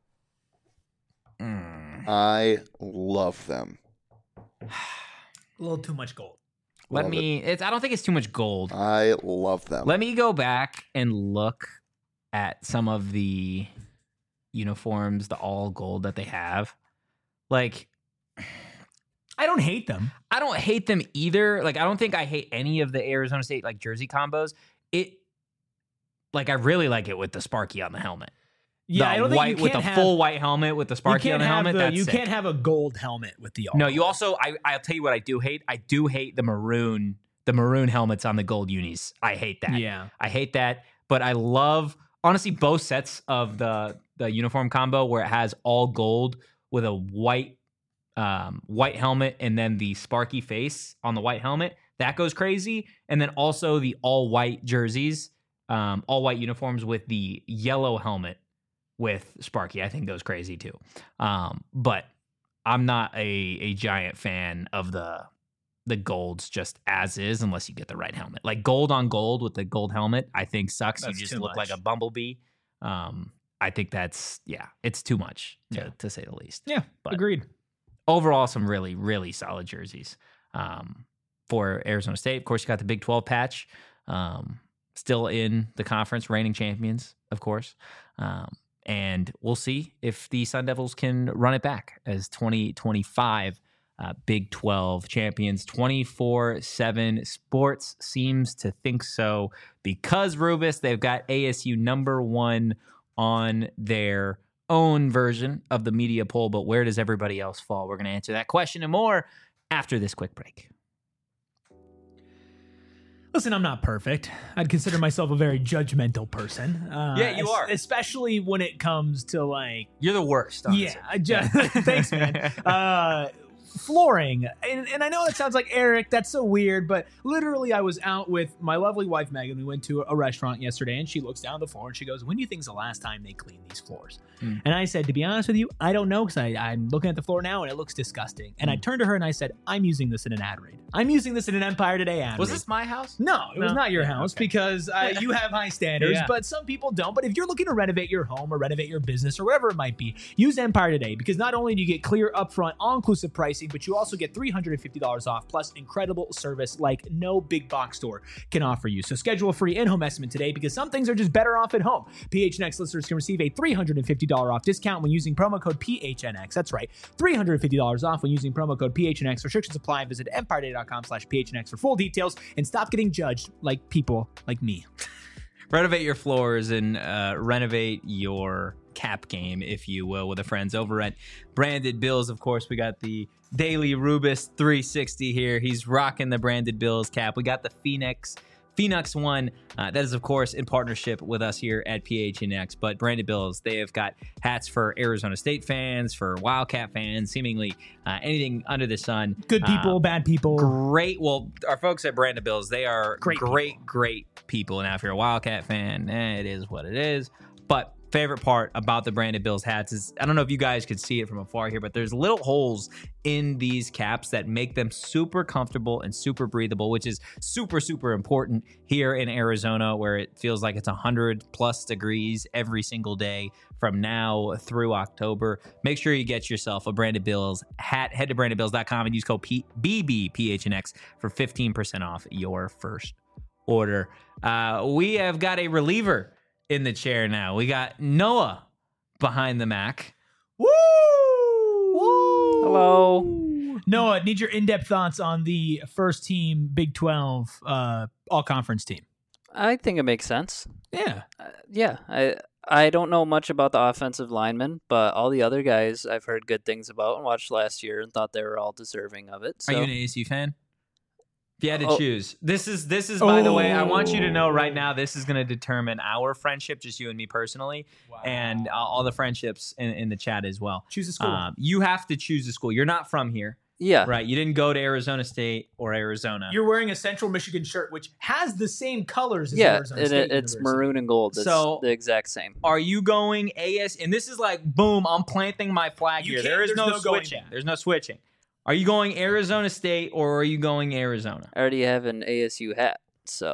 Mm. I love them. A little too much gold. Let Love me. It's. I don't think it's too much gold. I love them. Let me go back and look at some of the uniforms, the all gold that they have. Like, I don't hate them. I don't hate them either. Like, I don't think I hate any of the Arizona State like jersey combos. It, like, I really like it with the Sparky on the helmet. Yeah, the I don't think white you with can't the have, full white helmet with the you Sparky on can't the have helmet. the- that's you sick. can't have a gold helmet with the all. No, you gold. also. I. I'll tell you what I do hate. I do hate the maroon. The maroon helmets on the gold unis. I hate that. Yeah. I hate that, but I love honestly both sets of the the uniform combo where it has all gold with a white um, white helmet and then the Sparky face on the white helmet. That goes crazy, and then also the all white jerseys um, all white uniforms with the yellow helmet with Sparky, I think goes crazy too. Um, but I'm not a a giant fan of the the golds just as is unless you get the right helmet. Like gold on gold with the gold helmet, I think sucks. That's you just too look much. like a bumblebee. Um, I think that's yeah, it's too much to, Yeah. to say the least. Yeah, But- agreed. Overall, some really, really solid jerseys um, for Arizona State. Of course, you got the Big twelve patch, um, still in the conference, reigning champions, of course. Um, and we'll see if the Sun Devils can run it back as twenty twenty-five uh, Big twelve champions. twenty-four seven Sports seems to think so because, Rubus, they've got A S U number one on their own version of the media poll, but where does everybody else fall? We're going to answer that question and more after this quick break. Listen, I'm not perfect. I'd consider myself a very judgmental person. Uh, Yeah, you es- are. Especially when it comes to like, You're the worst. yeah, I ju- thanks, man. Uh, flooring. And, and I know that sounds like Eric, that's so weird, but literally I was out with my lovely wife, Megan. We went to a restaurant yesterday and she looks down the floor and she goes, when do you think's the last time they cleaned these floors? Hmm. And I said, to be honest with you, I don't know because I'm looking at the floor now and it looks disgusting. And I Hmm. turned to her and I said, I'm using this in an ad read. I'm using this in an Empire Today ad Was read. this my house? No, it was No? not your Yeah, house okay. because uh, you have high standards, Yeah. but some people don't. But if you're looking to renovate your home or renovate your business or whatever it might be, use Empire Today because not only do you get clear upfront all-inclusive pricing, but you also get three hundred fifty dollars off plus incredible service like no big box store can offer you. So schedule a free in-home estimate today because some things are just better off at home. P H N X listeners can receive a three hundred fifty dollars off discount when using promo code P H N X. That's right, three hundred fifty dollars off when using promo code P H N X. Restrictions apply. Visit empire day dot com slash P H N X for full details and stop getting judged like people like me. Renovate your floors and uh, renovate your cap game, if you will, with the friends over at Branded Bills. Of course, we got the Daily Rubus three sixty here. He's rocking the Branded Bills cap. We got the Phoenix Phoenix one. Uh, that is, of course, in partnership with us here at P H N X. But Branded Bills, they have got hats for Arizona State fans, for Wildcat fans, seemingly uh, anything under the sun. Good people, Uh, bad people. Great. Well, our folks at Branded Bills, they are Great great, people. great people. Now, if you're a Wildcat fan, eh, it is what it is. But favorite part about the Branded Bills hats is, I don't know if you guys could see it from afar here, but there's little holes in these caps that make them super comfortable and super breathable, which is super, super important here in Arizona, where it feels like it's one hundred plus degrees every single day from now through October. Make sure you get yourself a Branded Bills hat. Head to branded bills dot com and use code P- B B P H N X for fifteen percent off your first order. Uh, we have got a reliever in the chair now. We got Noah behind the Mac. Woo! Woo! Hello. Noah, need your in-depth thoughts on the first team Big twelve uh, all-conference team. I think it makes sense. Yeah. Uh, yeah, I I don't know much about the offensive linemen, but all the other guys I've heard good things about and watched last year and thought they were all deserving of it. So Are you an A S U fan? If you had to Oh. choose, this is this is by the way, I want you to know right Oh. now, this is going to determine our friendship, just you and me personally, and uh, all the friendships in, in the chat as well. Choose a school. Um, you have to choose a school. You're not from here, yeah, right? You didn't go to Arizona State or Arizona. You're wearing a Central Michigan shirt, which has the same colors as yeah, Arizona and State it, it's University. maroon and gold. It's So- the exact same. Are you going A S? And this is like, boom, I'm planting my flag You here. can't- There is there's no, no going switching. back. There's no switching. Are you going Arizona State or are you going Arizona? I already have an A S U hat, so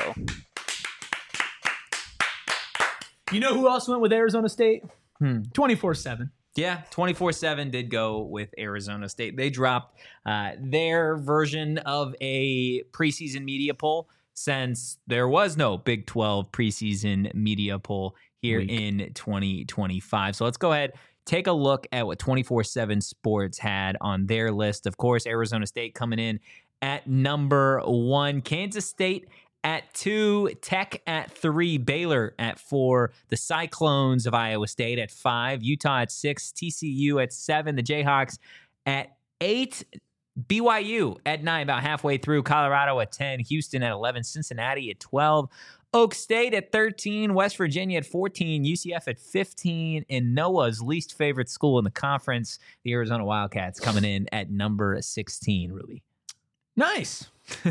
You know who else went with Arizona State? Hmm. twenty-four seven. Yeah, twenty-four seven did go with Arizona State. They dropped uh, their version of a preseason media poll since there was no Big twelve preseason media poll here Weak. in twenty twenty-five. So let's go ahead, take a look at what twenty-four seven Sports had on their list. Of course, Arizona State coming in at number one, Kansas State at two, Tech at three, Baylor at four, the Cyclones of Iowa State at five, Utah at six, T C U at seven, the Jayhawks at eight, B Y U at nine, about halfway through, Colorado at ten, Houston at eleven, Cincinnati at twelve, Oak State at thirteen, West Virginia at fourteen, U C F at fifteen, and Noah's least favorite school in the conference, the Arizona Wildcats, coming in at number sixteen, Ruby. Nice.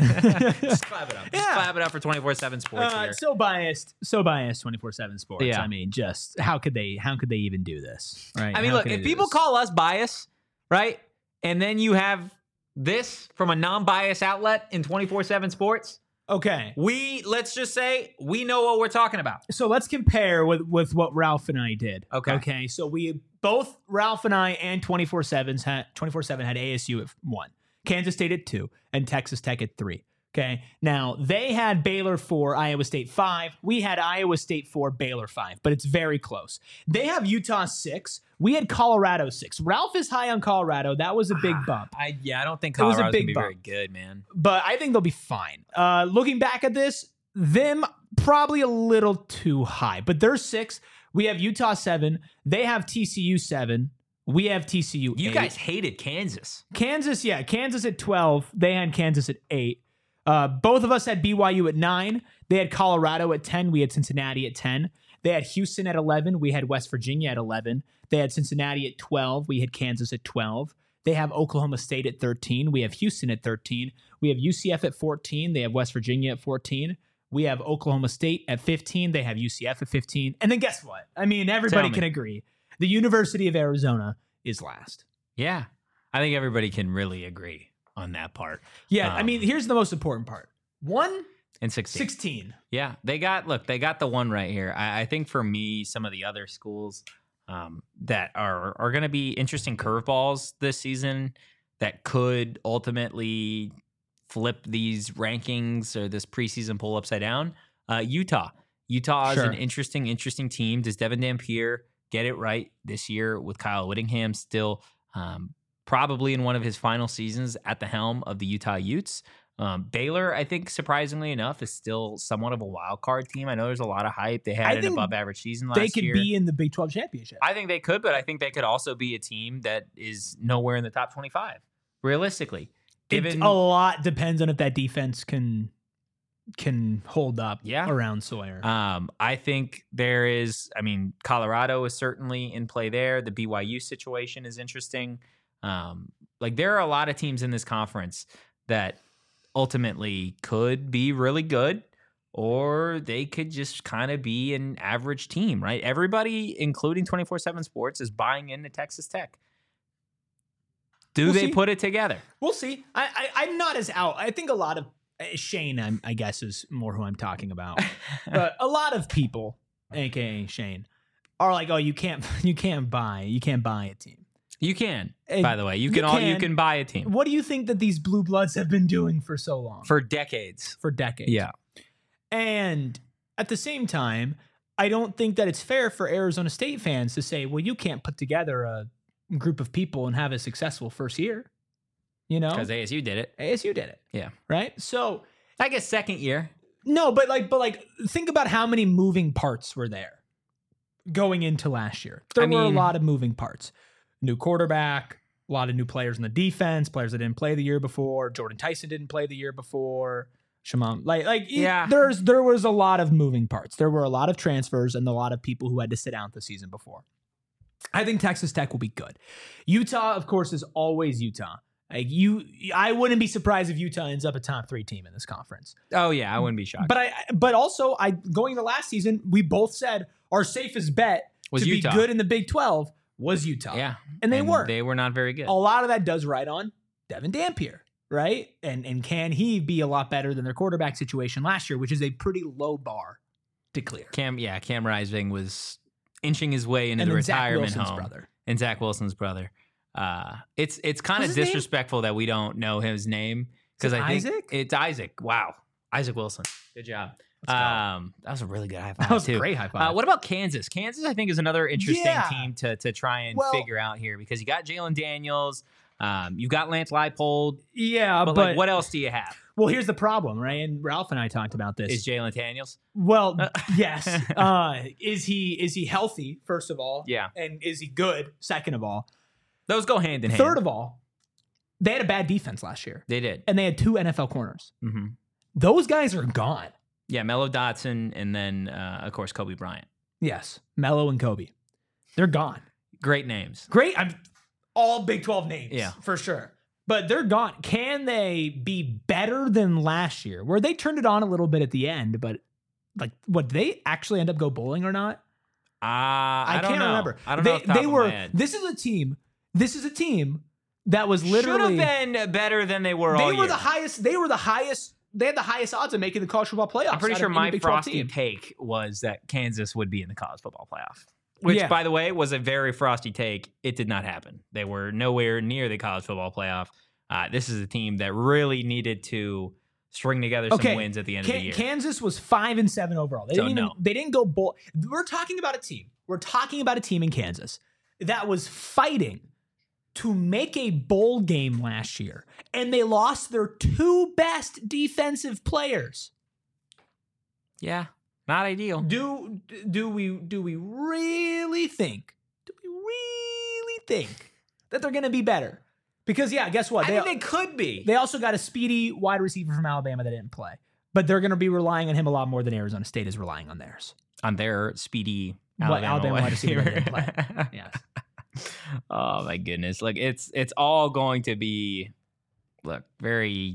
Just clap it up. Just Yeah. clap it up for twenty-four seven Sports Uh, here. so biased, so biased. twenty-four seven Sports. Yeah. I mean, just how could they? How could they even do this? Right. I mean, How look, could they if do people this? call us bias, right, and then you have this from a non-bias outlet in twenty-four seven Sports, okay, we, let's just say, we know what we're talking about. so let's compare with with what Ralph and I did. Okay. Okay. So we both Ralph and I and twenty-four sevens had twenty-four seven had A S U at one, Kansas State at two, and Texas Tech at three. Okay. Now they had Baylor four, Iowa State five. We had Iowa State four, Baylor five, but it's very close. They have Utah six. We had Colorado six. Ralph is high on Colorado. That was a big bump. I yeah, I don't think It was a Colorado's big gonna be bump. very good, man. But I think they'll be fine. Uh, looking back at this, them probably a little too high, but they're six. We have Utah seven. They have T C U seven. We have T C U You eight. guys hated Kansas. Kansas, yeah, Kansas at twelve. They had Kansas at eight. Uh, both of us had B Y U at nine. They had Colorado at ten. We had Cincinnati at ten. They had Houston at eleven. We had West Virginia at eleven. They had Cincinnati at twelve. We had Kansas at twelve. They have Oklahoma State at thirteen. We have Houston at thirteen. We have U C F at fourteen. They have West Virginia at fourteen. We have Oklahoma State at fifteen. They have U C F at fifteen. And then guess what? I mean, everybody Tell me. can agree. The University of Arizona is last. Yeah, I think everybody can really agree on that part. Yeah, I Um, mean, here's the most important part. One, And sixteen. sixteen. Yeah, they got look, they got the one right here. I, I think for me, some of the other schools um, that are are going to be interesting curveballs this season that could ultimately flip these rankings or this preseason poll upside down. Uh, Utah, Utah is Sure. an interesting, interesting team. Does Devin Dampier get it right this year with Kyle Whittingham still um, probably in one of his final seasons at the helm of the Utah Utes? Um, Baylor, I think, surprisingly enough, is still somewhat of a wild card team. I know there's a lot of hype. They I had an think above average season last They could year. be in the Big twelve championship. I think they could, but I think they could also be a team that is nowhere in the top twenty-five, realistically. It- Given a lot depends on if that defense can can hold up Yeah. around Sawyer. Um, I think there is, I mean, Colorado is certainly in play there. The B Y U situation is interesting. Um, like there are a lot of teams in this conference that ultimately could be really good, or they could just kind of be an average team, right? Everybody, including twenty-four seven Sports, is buying into Texas Tech. Do We'll they see. put it together? We'll see. I, I I'm not as out. I think a lot of uh, Shane, I'm, I guess, is more who I'm talking about. But a lot of people, aka Shane, are like, oh, you can't you can't buy you can't buy a team. You can, And by the way, you you can all you can. can buy a team What do you think that these blue bloods have been doing for so long? for decades. for decades. Yeah. And at the same time, I don't think that it's fair for Arizona State fans to say, well, you can't put together a group of people and have a successful first year. You know? Because A S U did it. A S U did it. Yeah. Right? So I guess second year. no, but like but like think about how many moving parts were there going into last year. There I were a mean- lot of moving parts. New quarterback, a lot of new players in the defense, players that didn't play the year before. Jordan Tyson didn't play the year before. Shimon, like, like, Yeah. yeah. there's there was a lot of moving parts. There were a lot of transfers and a lot of people who had to sit out the season before. I think Texas Tech will be good. Utah, of course, is always Utah. Like you, I wouldn't be surprised if Utah ends up a top three team in this conference. Oh yeah, I wouldn't be shocked. But I, but also, I going to last season, we both said our safest bet Was to Utah. be good in the Big twelve was Utah. yeah, and they were. They were not very good. A lot of that does ride on Devin Dampier, right? And and can he be a lot better than their quarterback situation last year, which is a pretty low bar to clear. Cam, yeah, Cam Rising was inching his way into And the then Zach retirement Wilson's home, brother. and Zach Wilson's brother. Uh, it's it's kind of What's his name? disrespectful that we don't know his name because Is it I think Isaac? it's Isaac. Wow, Isaac Wilson. Good job. Let's go. Um, that was a really good high five That was too. a great high Uh, five. what about Kansas? Kansas, I think, is another interesting Yeah. team to to try and Well- figure out here because you got Jalen Daniels, um, you've got Lance Leipold, yeah, but, but, like, what else do you have? well, here's the problem, right? And Ralph and I talked about this. Is Jalen Daniels? Well, yes. Uh, is he is he healthy? First of all, Yeah, and is he good? Second of all, those go hand in hand. third of all, they had a bad defense last year, they did. and they had two N F L corners. hmm Those guys are gone. Yeah, Mello Dotson, and then uh, of course Kobe Bryant. Yes, Mello and Kobe, they're gone. Great names. Great. I'm all Big twelve names. Yeah. for sure. but they're gone. Can they be better than last year, where they turned it on a little bit at the end, but like, what they actually end up go bowling or not? Uh, I, I don't can't know. remember. I don't they, know. Off the top They of were. my head. This is a team. This is a team that was literally should have been better than they were. They all were year. the highest. They were the highest. They had the highest odds of making the college football playoffs. I'm pretty out sure of any my Big twelve frosty team. take was that Kansas would be in the college football playoff. Which, Yeah. by the way, was a very frosty take. It did not happen. They were nowhere near the college football playoff. Uh, this is a team that really needed to string together some Okay, wins at the end Ka- of the year. Kansas was five and seven overall. They So, didn't even, no. They didn't go bowl. We're talking about a team. We're talking about a team in Kansas that was fighting to make a bowl game last year, and they lost their two best defensive players. yeah, not ideal. Do do we do we really think? Do we really think that they're going to be better? Because yeah, guess what? I They, think they could be. they also got a speedy wide receiver from Alabama that didn't play, but they're going to be relying on him a lot more than Arizona State is relying on theirs. on their speedy What, Alabama, Alabama wide wide receiver receiver. that didn't play. Yes. Oh my goodness! Look, it's it's all going to be, look, very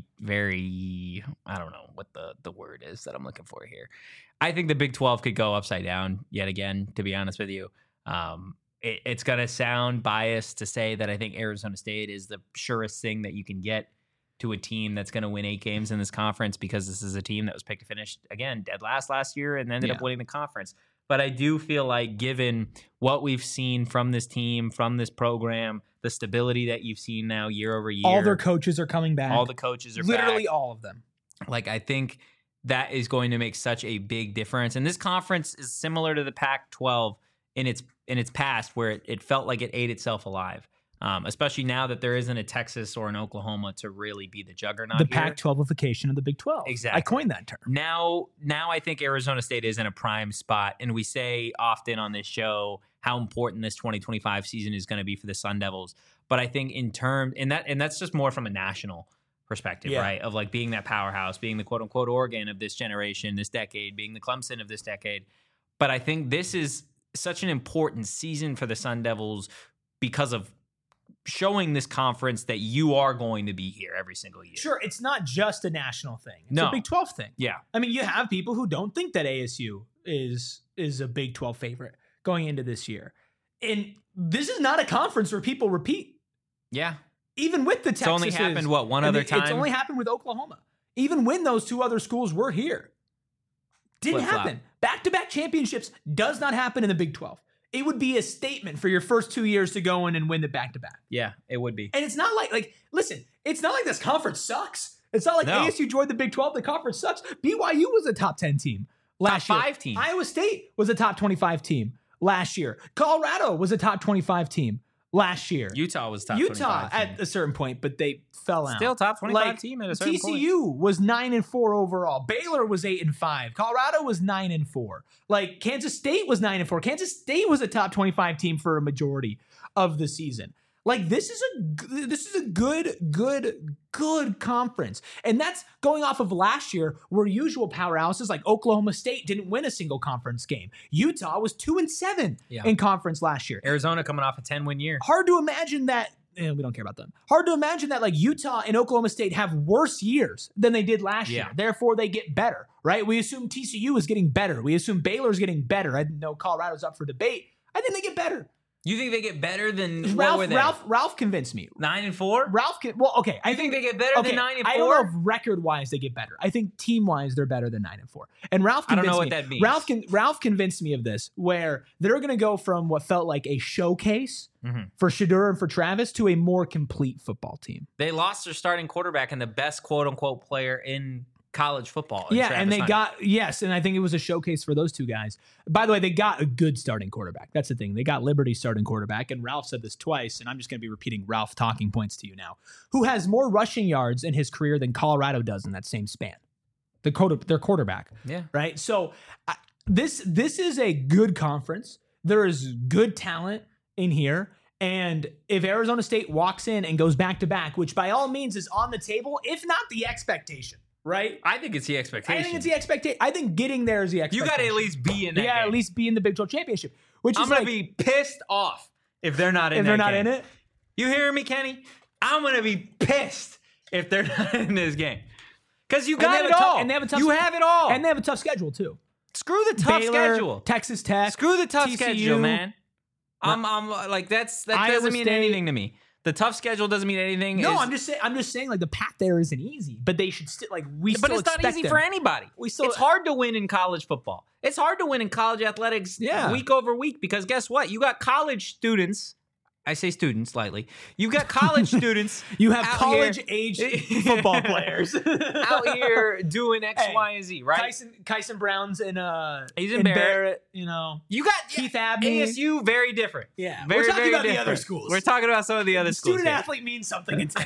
very. I don't know what the the word is that I'm looking for here. I think the Big twelve could go upside down yet again. To be honest with you, um, it, it's gonna sound biased to say that I think Arizona State is the surest thing that you can get to a team that's going to win eight games in this conference, because this is a team that was picked to finish again dead last last year and ended Yeah. up winning the conference. But I do feel like, given what we've seen from this team, from this program, the stability that you've seen now year over year, All their coaches are coming back. all the coaches are literally back. all of them. Like, I think that is going to make such a big difference. And this conference is similar to the Pac twelve in its in its past, where it, it felt like it ate itself alive. Um, especially now that there isn't a Texas or an Oklahoma to really be the juggernaut. The here. Pac twelve-ification of the Big twelve. Exactly. I coined that term. Now, now I think Arizona State is in a prime spot, and we say often on this show how important this twenty twenty-five season is going to be for the Sun Devils. But I think in terms, and that, and that's just more from a national perspective, Yeah. right? Of like being that powerhouse, being the quote unquote Oregon of this generation, this decade, being the Clemson of this decade. But I think this is such an important season for the Sun Devils because of showing this conference that you are going to be here every single year. Sure, it's not just a national thing. It's No. a Big twelve thing. Yeah. I mean, you have people who don't think that A S U is is a Big twelve favorite going into this year. And this is not a conference where people repeat. Yeah. Even with the Texas. It's only happened, what, one and other it- time? It's only happened with Oklahoma. Even when those two other schools were here. Didn't Flip-flop. happen. Back-to-back championships does not happen in the Big twelve. It would be a statement for your first two years to go in and win the back-to-back. Yeah, it would be. And it's not like, like, listen, it's not like this conference sucks. It's not like No. A S U joined the Big twelve, the conference sucks. B Y U was a top ten team last Top year. five team. Iowa State was a top twenty-five team last year. Colorado was a top twenty-five team last year. Utah was top Utah twenty-five at team. a certain point, but they fell out. Still top twenty-five Like, team at a certain T C point. U was nine and four overall. Baylor was eight and five. Colorado was nine and four. Like Kansas State was nine and four. Kansas State was a top twenty-five team for a majority of the season. Like this is a g- this is a good good good conference, and that's going off of last year where usual powerhouses like Oklahoma State didn't win a single conference game. Utah was two and seven Yeah. in conference last year. Arizona coming off a ten-win year. Hard to imagine that. eh, we don't care about them. Hard to imagine that like Utah and Oklahoma State have worse years than they did last Yeah. year. Therefore, they get better, right? We assume T C U is getting better. We assume Baylor's getting better. I know Colorado's up for debate. I think they get better. You think they get better than what Ralph, were they? Ralph, Ralph convinced me. Nine and four? Ralph, can, well, okay. I I think they get better okay, than nine and I four. don't know if record-wise they get better. I think team-wise they're better than nine and four. And Ralph I don't convinced know what me. that means. Ralph can, Ralph convinced me of this, where they're going to go from what felt like a showcase Mhm. for Shedeur and for Travis to a more complete football team. They lost their starting quarterback and the best quote unquote player in college football. in Yeah, Travis and they Hunter. got yes, and I think it was a showcase for those two guys. By the way, they got a good starting quarterback. That's the thing. They got Liberty starting quarterback, and Ralph said this twice, and I'm just going to be repeating Ralph talking points to you now. Who has more rushing yards in his career than Colorado does in that same span? The quarter, their quarterback, Yeah. right? So I, this this is a good conference. There is good talent in here. And if Arizona State walks in and goes back to back, which by all means is on the table, if not the expectation, right? I think it's the I expectation. think it's the expectation. I think getting there is the you expectation. got to at least be in that yeah, game. at least be in the Big twelve championship. Which I'm is going like to be pissed off if they're not in if that they're not game. in it. You hear me, Kenny? I'm going to be pissed if they're not in this game. Because you And they got have it a tough- all. and they have a tough you sch- have it all. And they have a tough schedule too. Screw the tough Baylor, schedule. Texas Tech. Screw the tough T C U. schedule, man. I'm, I'm like that's that Iowa doesn't mean State. anything to me. The tough schedule doesn't mean anything. No, It's- I'm just saying. I'm just saying, like the path there isn't easy, but they should still like we. but still it's not expect easy them. for anybody. We still- it's hard to win in college football. It's hard to win in college athletics Yeah. week over week because guess what? You got college students. I say students slightly. You've got college students. You have out college here- age football players out here doing X, Hey, Y, and Z, right? Kyson, Kyson Brown's in uh, He's in Barrett. You know, You got Keith Abney. A S U, very different. Yeah, very, we're talking very about the different. other schools. We're talking about some of the other schools. Student here. athlete means something. It's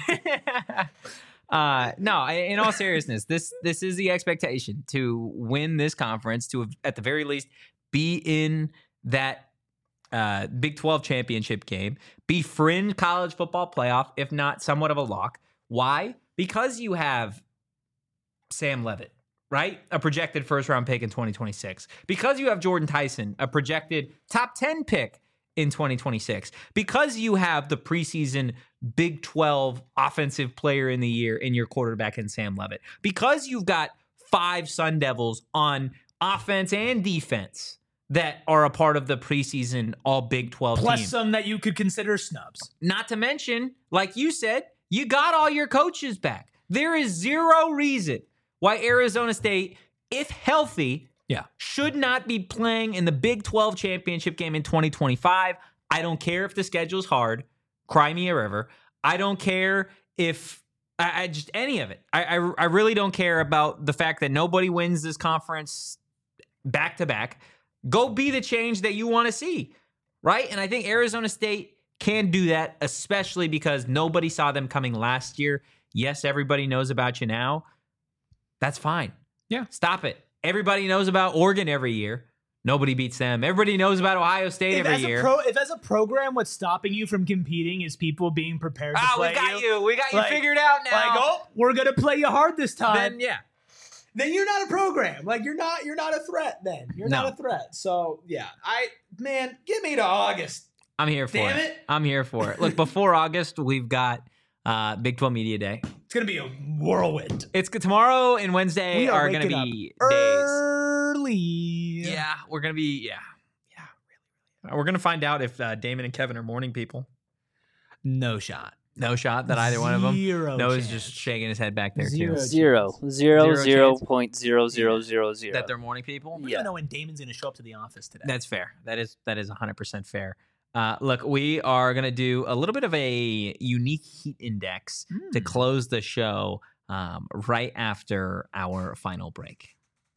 uh, no, I- in all seriousness, this this is the expectation to win this conference, to at the very least be in that uh, Big twelve championship game, be fringe college football playoff, if not somewhat of a lock. Why? Because you have Sam Leavitt, right? A projected first round pick in twenty twenty-six. Because you have Jordan Tyson, a projected top ten pick in twenty twenty-six. Because you have the preseason Big twelve offensive player in the year in your quarterback in Sam Leavitt. Because you've got five Sun Devils on offense and defense that are a part of the preseason all Big twelve plus team. some that you could consider snubs. Not to mention, like you said, you got all your coaches back. There is zero reason why Arizona State, if healthy, Yeah. should not be playing in the Big twelve championship game in twenty twenty-five. I don't care if the schedule's hard. Cry me a river. I don't care if I, I just any of it. I, I I really don't care about the fact that nobody wins this conference back to back. Go be the change that you want to see, right? And I think Arizona State can do that, especially because nobody saw them coming last year. Yes, everybody knows about you now. That's fine. Yeah. Stop it. Everybody knows about Oregon every year. Nobody beats them. Everybody knows about Ohio State If every as, year. a pro, if as a program, what's stopping you from competing is people being prepared to Ah, play we got you. We got you Like- figured out now. Like, oh, we're gonna play you hard this time. then yeah. then you're not a program. Like you're not you're not a threat then. You're No. not a threat. So yeah. I man, give me to August. I'm here for Damn it. it. I'm here for it. Look, before August, we've got uh, Big twelve Media Day. It's gonna be a whirlwind. It's tomorrow and Wednesday We are are, going to waking be up days. Early. Yeah, we're going to be, yeah. Yeah, really. We're going to find out if uh, Damon and Kevin are morning people. No shot. No shot that either one of them. Zero Noah's chance. just shaking his head back there, Zero. too. Zero. Zero, Zero zero chance. point zero zero zero zero. That they're morning people? We don't Yeah. even know when Damon's gonna show up to the office today. That's fair. That is that is one hundred percent fair. Uh, look, we are going to do a little bit of a unique heat index to Mm. close the show um, right after our final break.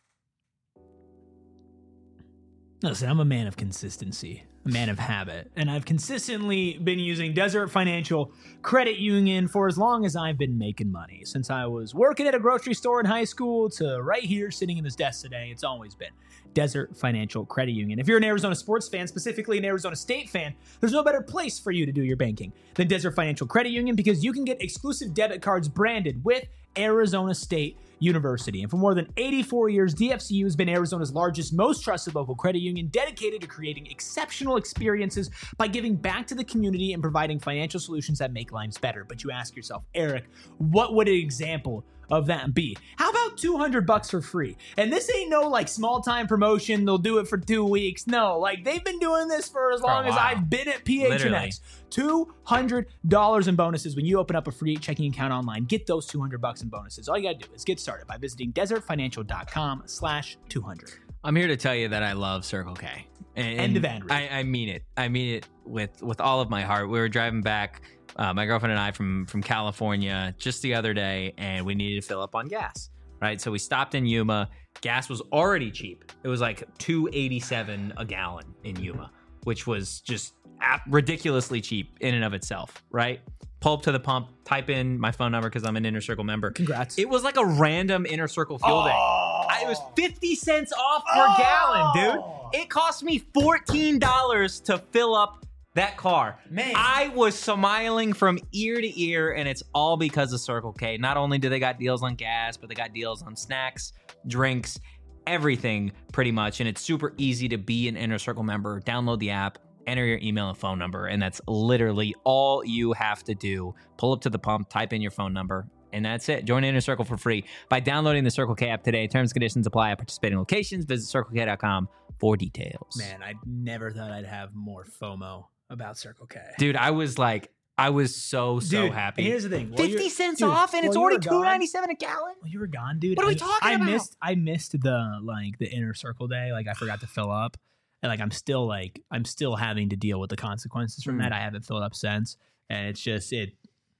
Listen, I'm a man of consistency, a man of habit, and I've consistently been using Desert Financial Credit Union for as long as I've been making money. Since I was working at a grocery store in high school to right here sitting in this desk today, it's always been Desert Financial Credit Union. If you're an Arizona sports fan, specifically an Arizona State fan, there's no better place for you to do your banking than Desert Financial Credit Union because you can get exclusive debit cards branded with Arizona State University. And for more than eighty-four years, D F C U has been Arizona's largest, most trusted local credit union, dedicated to creating exceptional experiences by giving back to the community and providing financial solutions that make lives better. But you ask yourself, Eric, what would an example of that be? How about two hundred bucks for free? And this ain't no like small time promotion. They'll do it for two weeks. No, like they've been doing this for as For a long as while. I've been at P H N X. Literally. two hundred dollars in bonuses when you open up a free checking account online. Get those two hundred bucks in bonuses. All you gotta do is get started by visiting desertfinancial.com slash 200. I'm here to tell you that I love Circle K. And, End of ad read. I, I mean it. I mean it with with all of my heart. We were driving back, uh, my girlfriend and I, from from California just the other day, and we needed to fill up on gas. Right, so we stopped in Yuma. Gas was already cheap. It was like two eighty-seven a gallon in Yuma, which was just ap- ridiculously cheap in and of itself. Right, pull up to the pump, type in my phone number because I'm an Inner Circle member. Congrats. It was like a random Inner Circle fuel day. Oh. I- It was fifty cents off per Oh. gallon, dude. It cost me fourteen dollars to fill up that car. Man. I was smiling from ear to ear, and it's all because of Circle K. Not only do they got deals on gas, but they got deals on snacks, drinks, everything pretty much. And it's super easy to be an Inner Circle member. Download the app, enter your email and phone number, and that's literally all you have to do. Pull up to the pump, type in your phone number, and that's it. Join Inner Circle for free by downloading the Circle K app today. Terms and conditions apply at participating locations. Visit circle k dot com for details. Man, I never thought I'd have more FOMO about Circle K. Dude, I was like, I was so, so Dude, happy. Here's the thing. While fifty you're- cents dude, off, and it's while you already were two gone- ninety-seven a gallon. Well, you were gone, dude. What are we I- talking I about? missed I missed the like the Inner Circle day. Like I forgot to fill up. And like I'm still like I'm still having to deal with the consequences from Mm. that. I haven't filled up since. And it's just it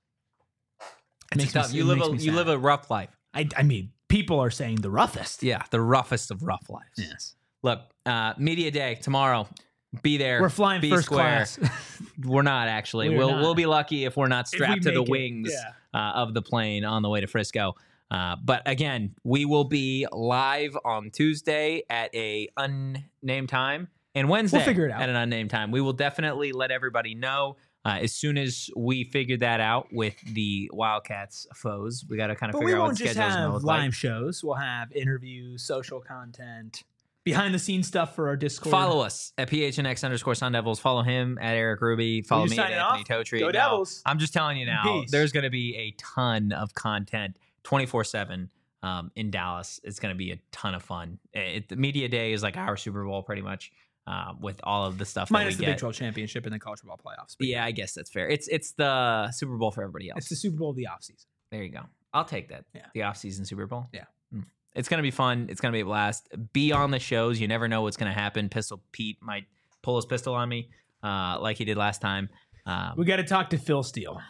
It's makes me- tough. it You live makes a me you sad. live a rough life. I I mean, people are saying the roughest. Yeah, the roughest of rough lives. Yes. Look, uh, media day tomorrow. Be there. We're flying be first square. class. We're not actually. We're we'll not. we'll be lucky if we're not If we strapped to the make it, wings yeah. uh, of the plane on the way to Frisco. Uh, but again, we will be live on Tuesday at a unnamed time and Wednesday figure it out. at an unnamed time. We will definitely let everybody know uh, as soon as we figure that out with the Wildcats foes. We got to kind of But we figure out what won't the just schedule's going to have look live like. shows. We'll have interviews, social content, behind the scenes stuff for our Discord. Follow us at P H N X underscore Sun Devils. Follow him at Eric Ruby. Follow you me at signing Anthony off? Totri. Go No, Devils. I'm just telling you now, Peace. there's going to be a ton of content twenty-four seven um, in Dallas. It's going to be a ton of fun. It, the media day is like our Super Bowl pretty much uh, with all of the stuff Minus that the we Big get. twelve championship and the college football playoffs. But Yeah, I guess that's fair. It's it's the Super Bowl for everybody else. it's the Super Bowl of the offseason. There you go. I'll take that. Yeah. The off-season Super Bowl. Yeah. Mm. It's going to be fun. It's going to be a blast. Be on the shows. You never know what's going to happen. Pistol Pete might pull his pistol on me uh, like he did last time. Um, We got to talk to Phil Steele.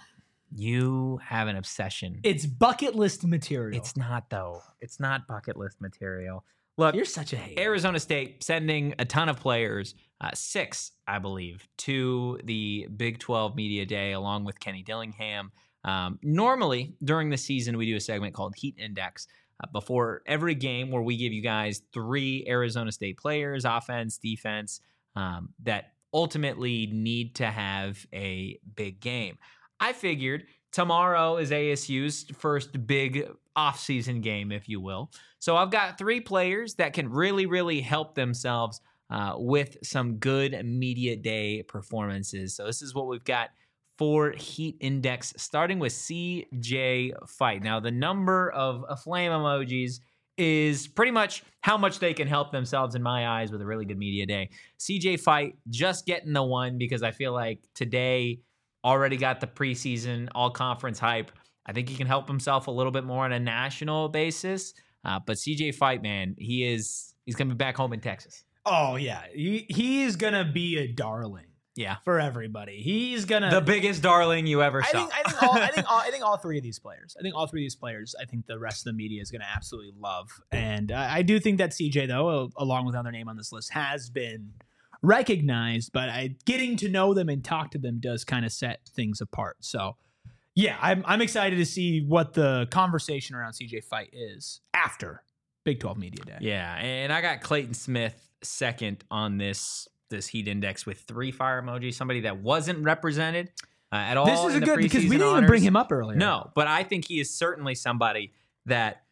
you have an obsession. It's bucket list material. It's not, though. It's not bucket list material. Look, You're such a hater. Arizona State sending a ton of players, uh, six, I believe, to the Big twelve Media Day along with Kenny Dillingham. Um, normally, during the season, we do a segment called Heat Index uh, before every game where we give you guys three Arizona State players, offense, defense, um, that ultimately need to have a big game. I figured tomorrow is A S U's first big offseason game, if you will. So I've got three players that can really, really help themselves uh, with some good media day performances. So this is what we've got for Heat Index, starting with C J Fight. Now, the number of uh, flame emojis is pretty much how much they can help themselves in my eyes with a really good media day. C J Fight just getting the one because I feel like today already got the preseason all-conference hype. I think he can help himself a little bit more on a national basis. Uh, but C J Fight, man, he is he's going to be back home in Texas. Oh, yeah. He, he's going to be a darling Yeah. for everybody. He's going to. The biggest darling you ever I saw. think I think all I think all, I think all three of these players. I think all three of these players. I think the rest of the media is going to absolutely love, and I, I do think that C J though, along with another name on this list, has been recognized. But I, getting to know them and talk to them does kind of set things apart. So, yeah, I'm I'm excited to see what the conversation around C J Fight is after Big twelve Media Day. Yeah, and I got Clayton Smith second on this this Heat Index with three fire emojis, somebody that wasn't represented uh, at all. This is a in the good because we preseason didn't even honors. bring him up earlier. No, but I think he is certainly somebody that,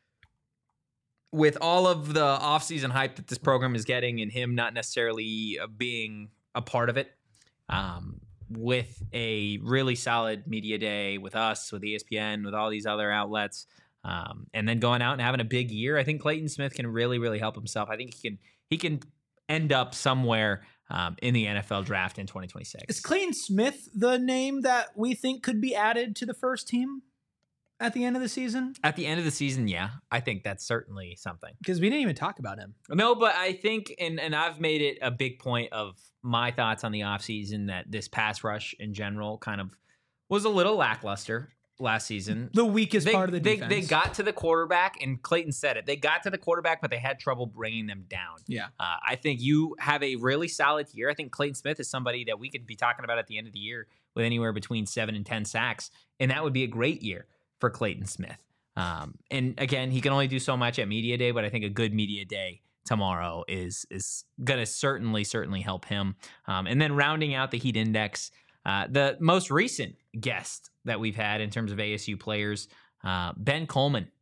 with all of the offseason hype that this program is getting and him not necessarily uh, being a part of it, um, with a really solid media day with us, with E S P N, with all these other outlets, um, and then going out and having a big year, I think Clayton Smith can really, really help himself. I think he can he can end up somewhere um, in the N F L draft in twenty twenty-six. Is Clayton Smith the name that we think could be added to the first team at the end of the season? At the end of the season, yeah, I think that's certainly something. Because we didn't even talk about him. No, but I think, and, and I've made it a big point of my thoughts on the offseason that this pass rush in general kind of was a little lackluster last season. The weakest They, part of the they, defense. they got to the quarterback, and Clayton said it. They got to the quarterback, but they had trouble bringing them down. Yeah. Uh, I think you have a really solid year. I think Clayton Smith is somebody that we could be talking about at the end of the year with anywhere between seven and ten sacks, and that would be a great year for Clayton Smith. Um, and again, he can only do so much at media day, but I think a good media day tomorrow is is going to certainly, certainly help him. Um, and then rounding out the Heat Index, uh, the most recent guest that we've had in terms of A S U players, uh, Ben Coleman,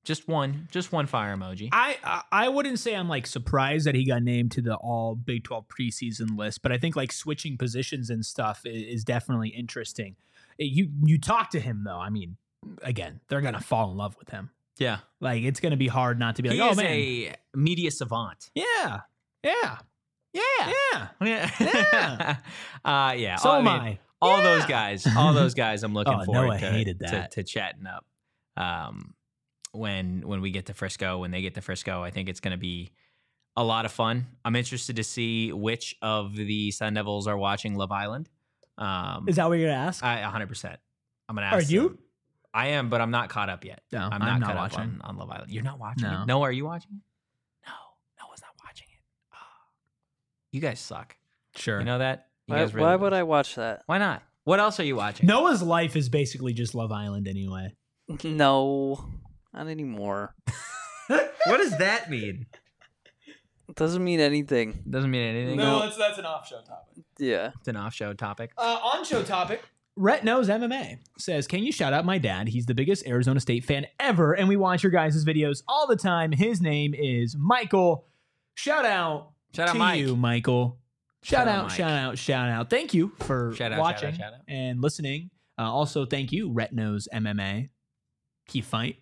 Just one, just one fire emoji. I I- I wouldn't say I'm like surprised that he got named to the all Big twelve preseason list, but I think like switching positions and stuff is, is definitely interesting. You you talk to him though. I mean, again, they're gonna fall in love with him. Yeah. Like it's gonna be hard not to be like, He oh is man, a media savant. yeah, yeah, Yeah. yeah. Yeah. Yeah. uh, yeah. So I am mean, I. All Yeah. those guys, all those guys I'm looking Oh, forward Noah to, hated to, that. to chatting up. Um, when when we get to Frisco, when they get to Frisco, I think it's going to be a lot of fun. I'm interested to see which of the Sun Devils are watching Love Island. Um, Is that what you're gonna ask? I one hundred percent. I'm going to Are ask you? them. I am, but I'm not caught up yet. No, I'm I'm not, not caught watching. up on, on Love Island. You're not watching No. it? No, are you watching it? No, Noah's not watching it. Oh. You guys suck. Sure. You know that? You Why, guys really why do. would I watch that? Why not? What else are you watching? Noah's life is basically just Love Island anyway. No, not anymore. What does that mean? It doesn't mean anything. Doesn't mean anything. that's that's an off-show topic. Yeah. It's an off-show topic. Uh, on-show topic. Rhett Knows M M A says, can you shout out my dad? He's the biggest Arizona State fan ever, and we watch your guys' videos all the time. His name is Michael. Shout out Shout out to Mike. you, Michael. Shout, Shout out out, Mike. shout out, shout out. Thank you for Shout out, shout out, watching shout out. and listening. Uh, also, thank you, Rhett Knows M M A. Keep fight.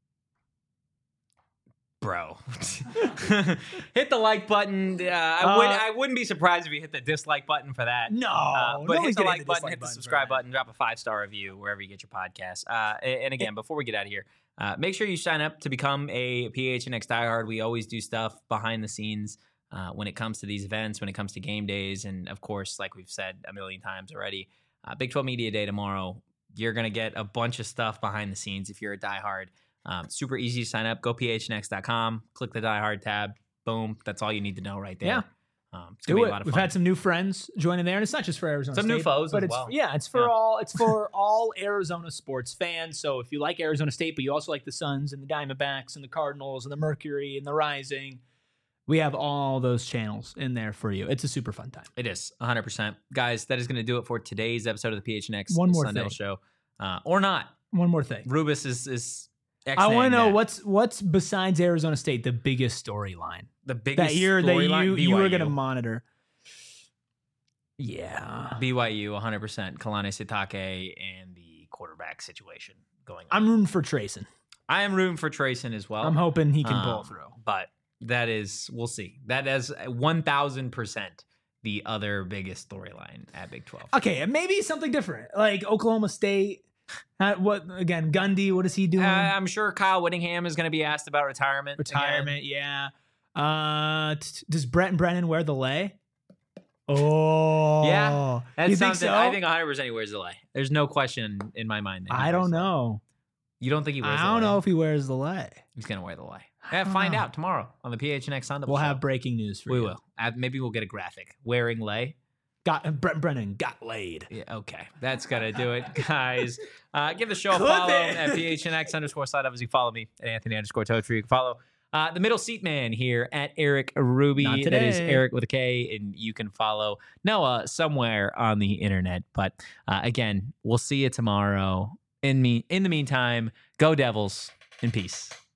Bro. Hit the like button. Uh, I, Uh, would, I wouldn't be surprised if you hit the dislike button for that. No, Uh, but nobody's hit the gonna like button, dislike hit the for subscribe that. button, drop a five star review wherever you get your podcast. Uh, and and again, before we get out of here, uh, make sure you sign up to become a P H N X diehard. We always do stuff behind the scenes uh, when it comes to these events, when it comes to game days, and of course, like we've said a million times already, uh, Big twelve Media Day tomorrow. You're gonna get a bunch of stuff behind the scenes if you're a diehard. Um, super easy to sign up. Go P H N X dot com, click the diehard tab. Boom. That's all you need to know right there. Yeah. Um, it's gonna Do be it. a lot of We've fun. had some new friends joining there, and it's not just for Arizona Some State, new foes but as it's well. yeah, it's for Yeah. all it's for all Arizona sports fans. So if you like Arizona State, but you also like the Suns and the Diamondbacks and the Cardinals and the Mercury and the Rising, we have all those channels in there for you. It's a super fun time. It is one hundred percent. Guys, that is going to do it for today's episode of the P H N X One more Sun Devil thing. Show. Uh, or not. One more thing. Rubus is is. I want to X-naying know that. what's what's besides Arizona State the biggest storyline the biggest that year that storyline? you B Y U. you were going to monitor. Yeah, B Y U one hundred percent. Kalani Sitake and the quarterback situation going on. I'm rooting for Trayson. I am rooting for Trayson as well. I'm hoping he can pull Um, through. But that is, we'll see. That is one thousand percent the other biggest storyline at Big twelve. Okay, and maybe something different, like Oklahoma State. Uh, what again? Gundy, what is he doing? Uh, I'm sure Kyle Whittingham is going to be asked about retirement. again. Retirement, yeah. Uh, t- t- does Brett and Brennan wear the lay? Oh, Yeah, That's you think something so? I think one hundred percent he wears the lay. There's no question in my mind. That he I wears don't the lay. know. You don't think he wears I the don't lay? know if he wears the lay. He's going to wear the lay. I Yeah, don't find know. out tomorrow on the P H N X Sun Devil We'll Show. have breaking news for We you. will. Uh, maybe we'll get a graphic. Wearing lay. Got uh, Brett and Brennan got laid. Yeah, okay. That's going to do it, guys. Uh, give the show a Clip follow it. at P H N X underscore side up as you follow me at Anthony underscore Totri. You can follow uh, the middle seat man here at Eric Ruby. Not That is today. Eric with a K. And you can follow Noah somewhere on the internet. But uh, again, we'll see you tomorrow. In me, in the meantime, go Devils in peace.